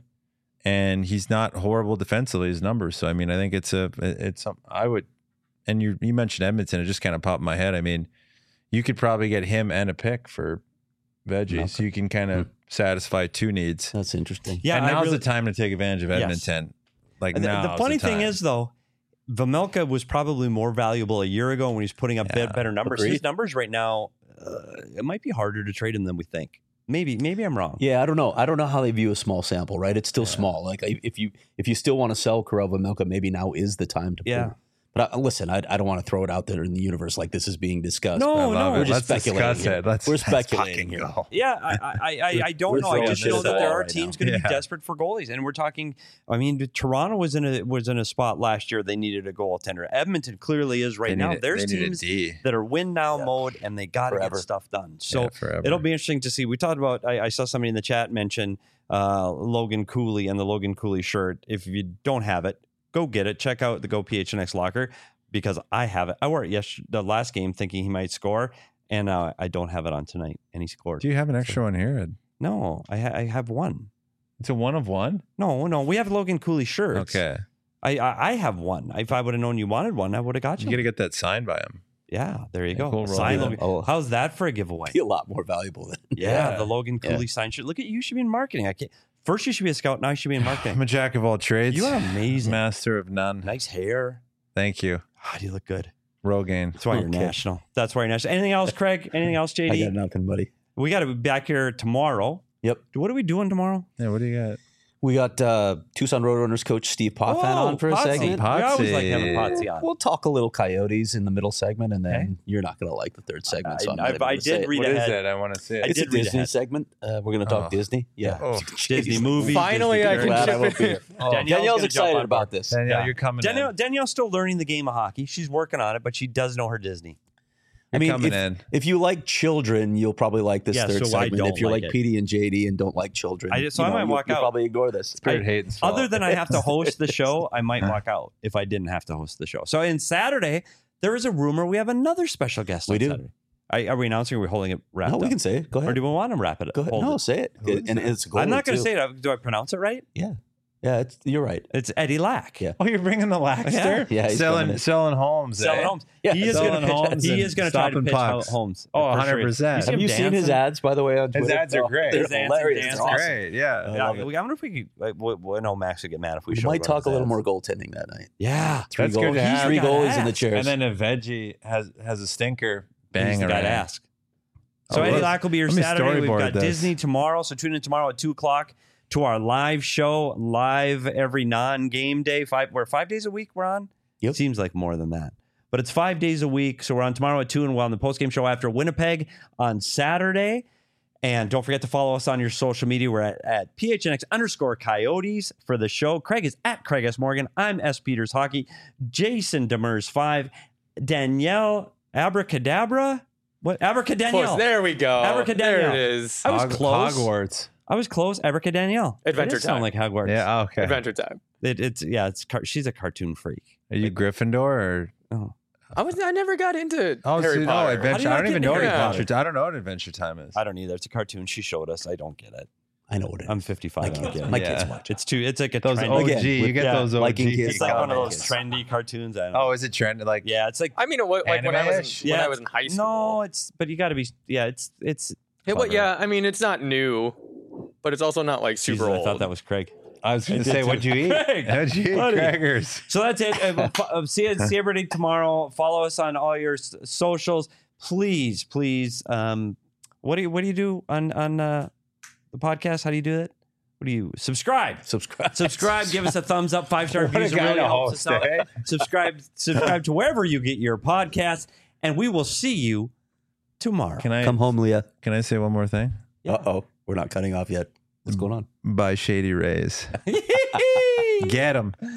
B: and he's not horrible defensively. His numbers. So I mean, I think it's something I would. And you mentioned Edmonton. It just kind of popped in my head. I mean, you could probably get him and a pick for veggies. So you can kind of satisfy two needs.
C: That's interesting.
A: Yeah,
B: and now's the time to take advantage of Edmonton. Like now,
A: the funny thing is, though, Vejmelka was probably more valuable a year ago when he's putting up better numbers.
C: Agreed.
A: His numbers right now, it might be harder to trade him than we think. Maybe I'm wrong.
C: Yeah, I don't know. I don't know how they view a small sample, right? It's still small. Like if you still want to sell Karel Vejmelka, maybe now is the time to.
A: Yeah.
C: But listen, I don't want to throw it out there in the universe like this is being discussed.
A: No,
C: we're just
B: Let's
C: speculating.
B: discuss
C: Here.
B: it.
C: We're speculating here.
B: Go.
A: Yeah, I don't
C: We're
A: know. I
C: throwing
A: just
C: shit
A: know
C: at the
A: that there
C: wall
A: are
C: right
A: teams
C: now.
A: going to be desperate for goalies, and we're talking. I mean, Toronto was in a spot last year. They needed a goaltender. Edmonton clearly is right now. There's teams that are win now mode, and they got to get stuff done. So it'll be interesting to see. We talked about. I saw somebody in the chat mention Logan Cooley and the Logan Cooley shirt. If you don't have it, go get it. Check out the Go PHNX locker. Because I have it. I wore it the last game thinking he might score, and I don't have it on tonight, and he scored.
B: Do you have an extra one here, Ed?
A: No, I have one.
B: It's a one of one?
A: No, we have Logan Cooley shirts.
B: Okay.
A: I have one. If I would have known you wanted one, I would have got you.
B: You got to get that signed by him.
A: Yeah, there you go.
B: Cool,
A: Sign
C: yeah.
A: Logan.
C: Oh.
A: How's that for a giveaway?
C: Be a lot more valuable than.
A: Yeah, the Logan Cooley signed shirt. Look at you. Should be in marketing. I can't. First, you should be a scout. Now you should be in marketing.
B: I'm a jack of all trades.
A: You are amazing.
B: Master of none.
A: Nice hair.
B: Thank you.
A: God, you look good.
B: Rogaine.
A: That's why you're national. That's why you're national. Anything else, Craig? Anything else, JD?
C: I got nothing, buddy.
A: We got to be back here tomorrow.
C: Yep.
A: What are we doing tomorrow?
B: Yeah, what do you got?
C: We got Tucson Roadrunners coach Steve Potvin on for a
A: Potsy.
C: segment.
A: We always like
B: Potsy.
A: having Potsy on.
C: We'll talk a little Coyotes in the middle segment, and then you're not going to like the third segment. So I'm not even
A: I
C: gonna say
A: did
C: it.
A: read
B: What
A: ahead.
B: is it? I want to see it.
A: I
C: It's a
A: did read
C: Disney
A: ahead.
C: segment. We're going to talk Disney. Yeah.
B: Oh,
A: Disney movies.
D: Finally,
A: Disney
D: I can
C: Glad I
D: chip
C: won't be
D: in.
C: here.
A: Danielle's
C: Danielle's
A: gonna jump
C: excited
A: on
C: about
A: board.
C: this.
B: Danielle, you're coming
A: Danielle's still learning the game of hockey. She's working on it, but she does know her Disney.
C: I mean,
B: coming in.
C: if you like children, you'll probably like this
A: Yeah,
C: third
A: so I
C: segment.
A: don't
C: If you
A: like
C: like
A: it.
C: PD and JD and don't like children,
A: I might walk
C: you'll
A: out.
C: probably ignore this.
B: Spirit hate and swallow.
A: Other than I have to host the show, I might walk out if I didn't have to host the show. So in Saturday, there is a rumor we have another special guest
C: We
A: on
C: do.
A: Saturday. Are we announcing or are we holding it wrapped
C: No, we
A: up?
C: can say it. Go
A: Or
C: ahead.
A: do we want to wrap it up?
C: Go ahead.
A: Hold
C: No,
A: it?
C: say it. And it's a goalie,
A: I'm not going to
C: too.
A: say it. Do I pronounce it right?
C: Yeah, you're right.
A: It's Eddie Lack.
C: Yeah.
B: Oh, you're bringing the Laxter?
C: Yeah, he's coming in.
B: selling homes.
A: Selling homes.
C: Yeah,
A: he is
B: selling
A: going
B: homes
A: to. He
B: and
A: is going to try to
B: stopping
A: pitch
B: pucks.
A: homes.
B: Oh,
A: For sure.
B: 100%.
A: You see
C: Have
A: him
C: you seen his
A: dancing?
C: ads, by the way, on Twitter?
B: His ads are great.
C: They're
A: His ads
C: hilarious.
A: and
C: They're
A: dancing.
C: awesome.
B: Great, yeah.
A: Yeah, I wonder if we could. No, Max would get mad if we
C: We
A: showed
C: might
A: one
C: talk
A: of
C: a
A: his
C: little
A: ads.
C: more goaltending that night.
A: Yeah,
C: Three
B: That's
C: goals.
B: good to have.
C: Three
A: He's the guy
C: goalies
A: to
C: in the
A: ask.
C: chairs.
B: And then a veggie has a stinker.
A: He's
B: Bang
A: the guy to
B: around.
A: ask. So
B: Oh,
A: Eddie
B: let-
A: Lack will be here
B: let me
A: Saturday. We've
B: storyboard
A: got
B: this.
A: Disney tomorrow, so tune in tomorrow at 2:00 to our live show, live every non-game day. We're 5 days a week we're on?
C: Yep.
A: Seems like more than that. But it's 5 days a week, so we're on tomorrow at 2, and we're on the post-game show after Winnipeg on Saturday. And don't forget to follow us on your social media. We're at PHNX_Coyotes for the show. Craig is at Craig S. Morgan. I'm S. Peters Hockey. Jason Demers 5. Danielle Abracadabra? What? Abracadanielle.
D: Close. There we go.
A: Abracadanielle.
D: There it is.
A: I was close.
B: Hogwarts.
A: I was close. Abracadanielle.
D: Adventure
A: It does sound
D: Time.
A: like Hogwarts.
B: Yeah, okay.
D: Adventure Time.
A: She's a cartoon freak.
B: Are you Gryffindor or?
D: I never got into Harry
B: no,
D: Potter.
B: Adventure.
A: How do you
B: I
A: not
B: don't even
A: get
B: know what
A: into Harry
B: Adventure. I don't know what Adventure Time is.
A: I don't either. It's a cartoon. She showed us. I don't get it.
C: I know what it is.
A: I'm 55. I don't get it.
C: My
B: Yeah.
C: kids watch.
A: It's like a
B: Those
A: trendy.
B: OG.
C: Again,
B: You get
A: yeah,
B: those OG.
C: liking kids.
A: It's like one of those
C: Kids.
A: trendy cartoons. I don't know.
B: Oh, is it trend? Like
A: Yeah, it's like
D: I mean, like when I was
B: Anime-ish?
D: when I was in high school.
A: No, but you got to be. Yeah, it's.
D: Yeah, but yeah, I mean, it's not new, but it's also not like super
A: Jesus,
D: old.
A: I thought that was Craig.
B: I was going to
A: did
B: say,
A: too.
B: what'd you eat?
A: Craig,
B: What'd you eat?
A: buddy.
B: Crackers.
A: So that's it. See everybody tomorrow. Follow us on all your socials, please. What do you do on the podcast? How do you do it? What do you subscribe? Subscribe. Give us a thumbs up. 5-star
B: What a
A: reviews. It
B: guy
A: really
B: to
A: helps
B: host,
A: us out.
B: eh?
A: Subscribe to wherever you get your podcasts, and we will see you tomorrow.
C: Come home, Leah.
B: Can I say one more thing?
C: Uh-oh. We're not cutting off yet. What's going on?
B: By Shady Rays. Get them.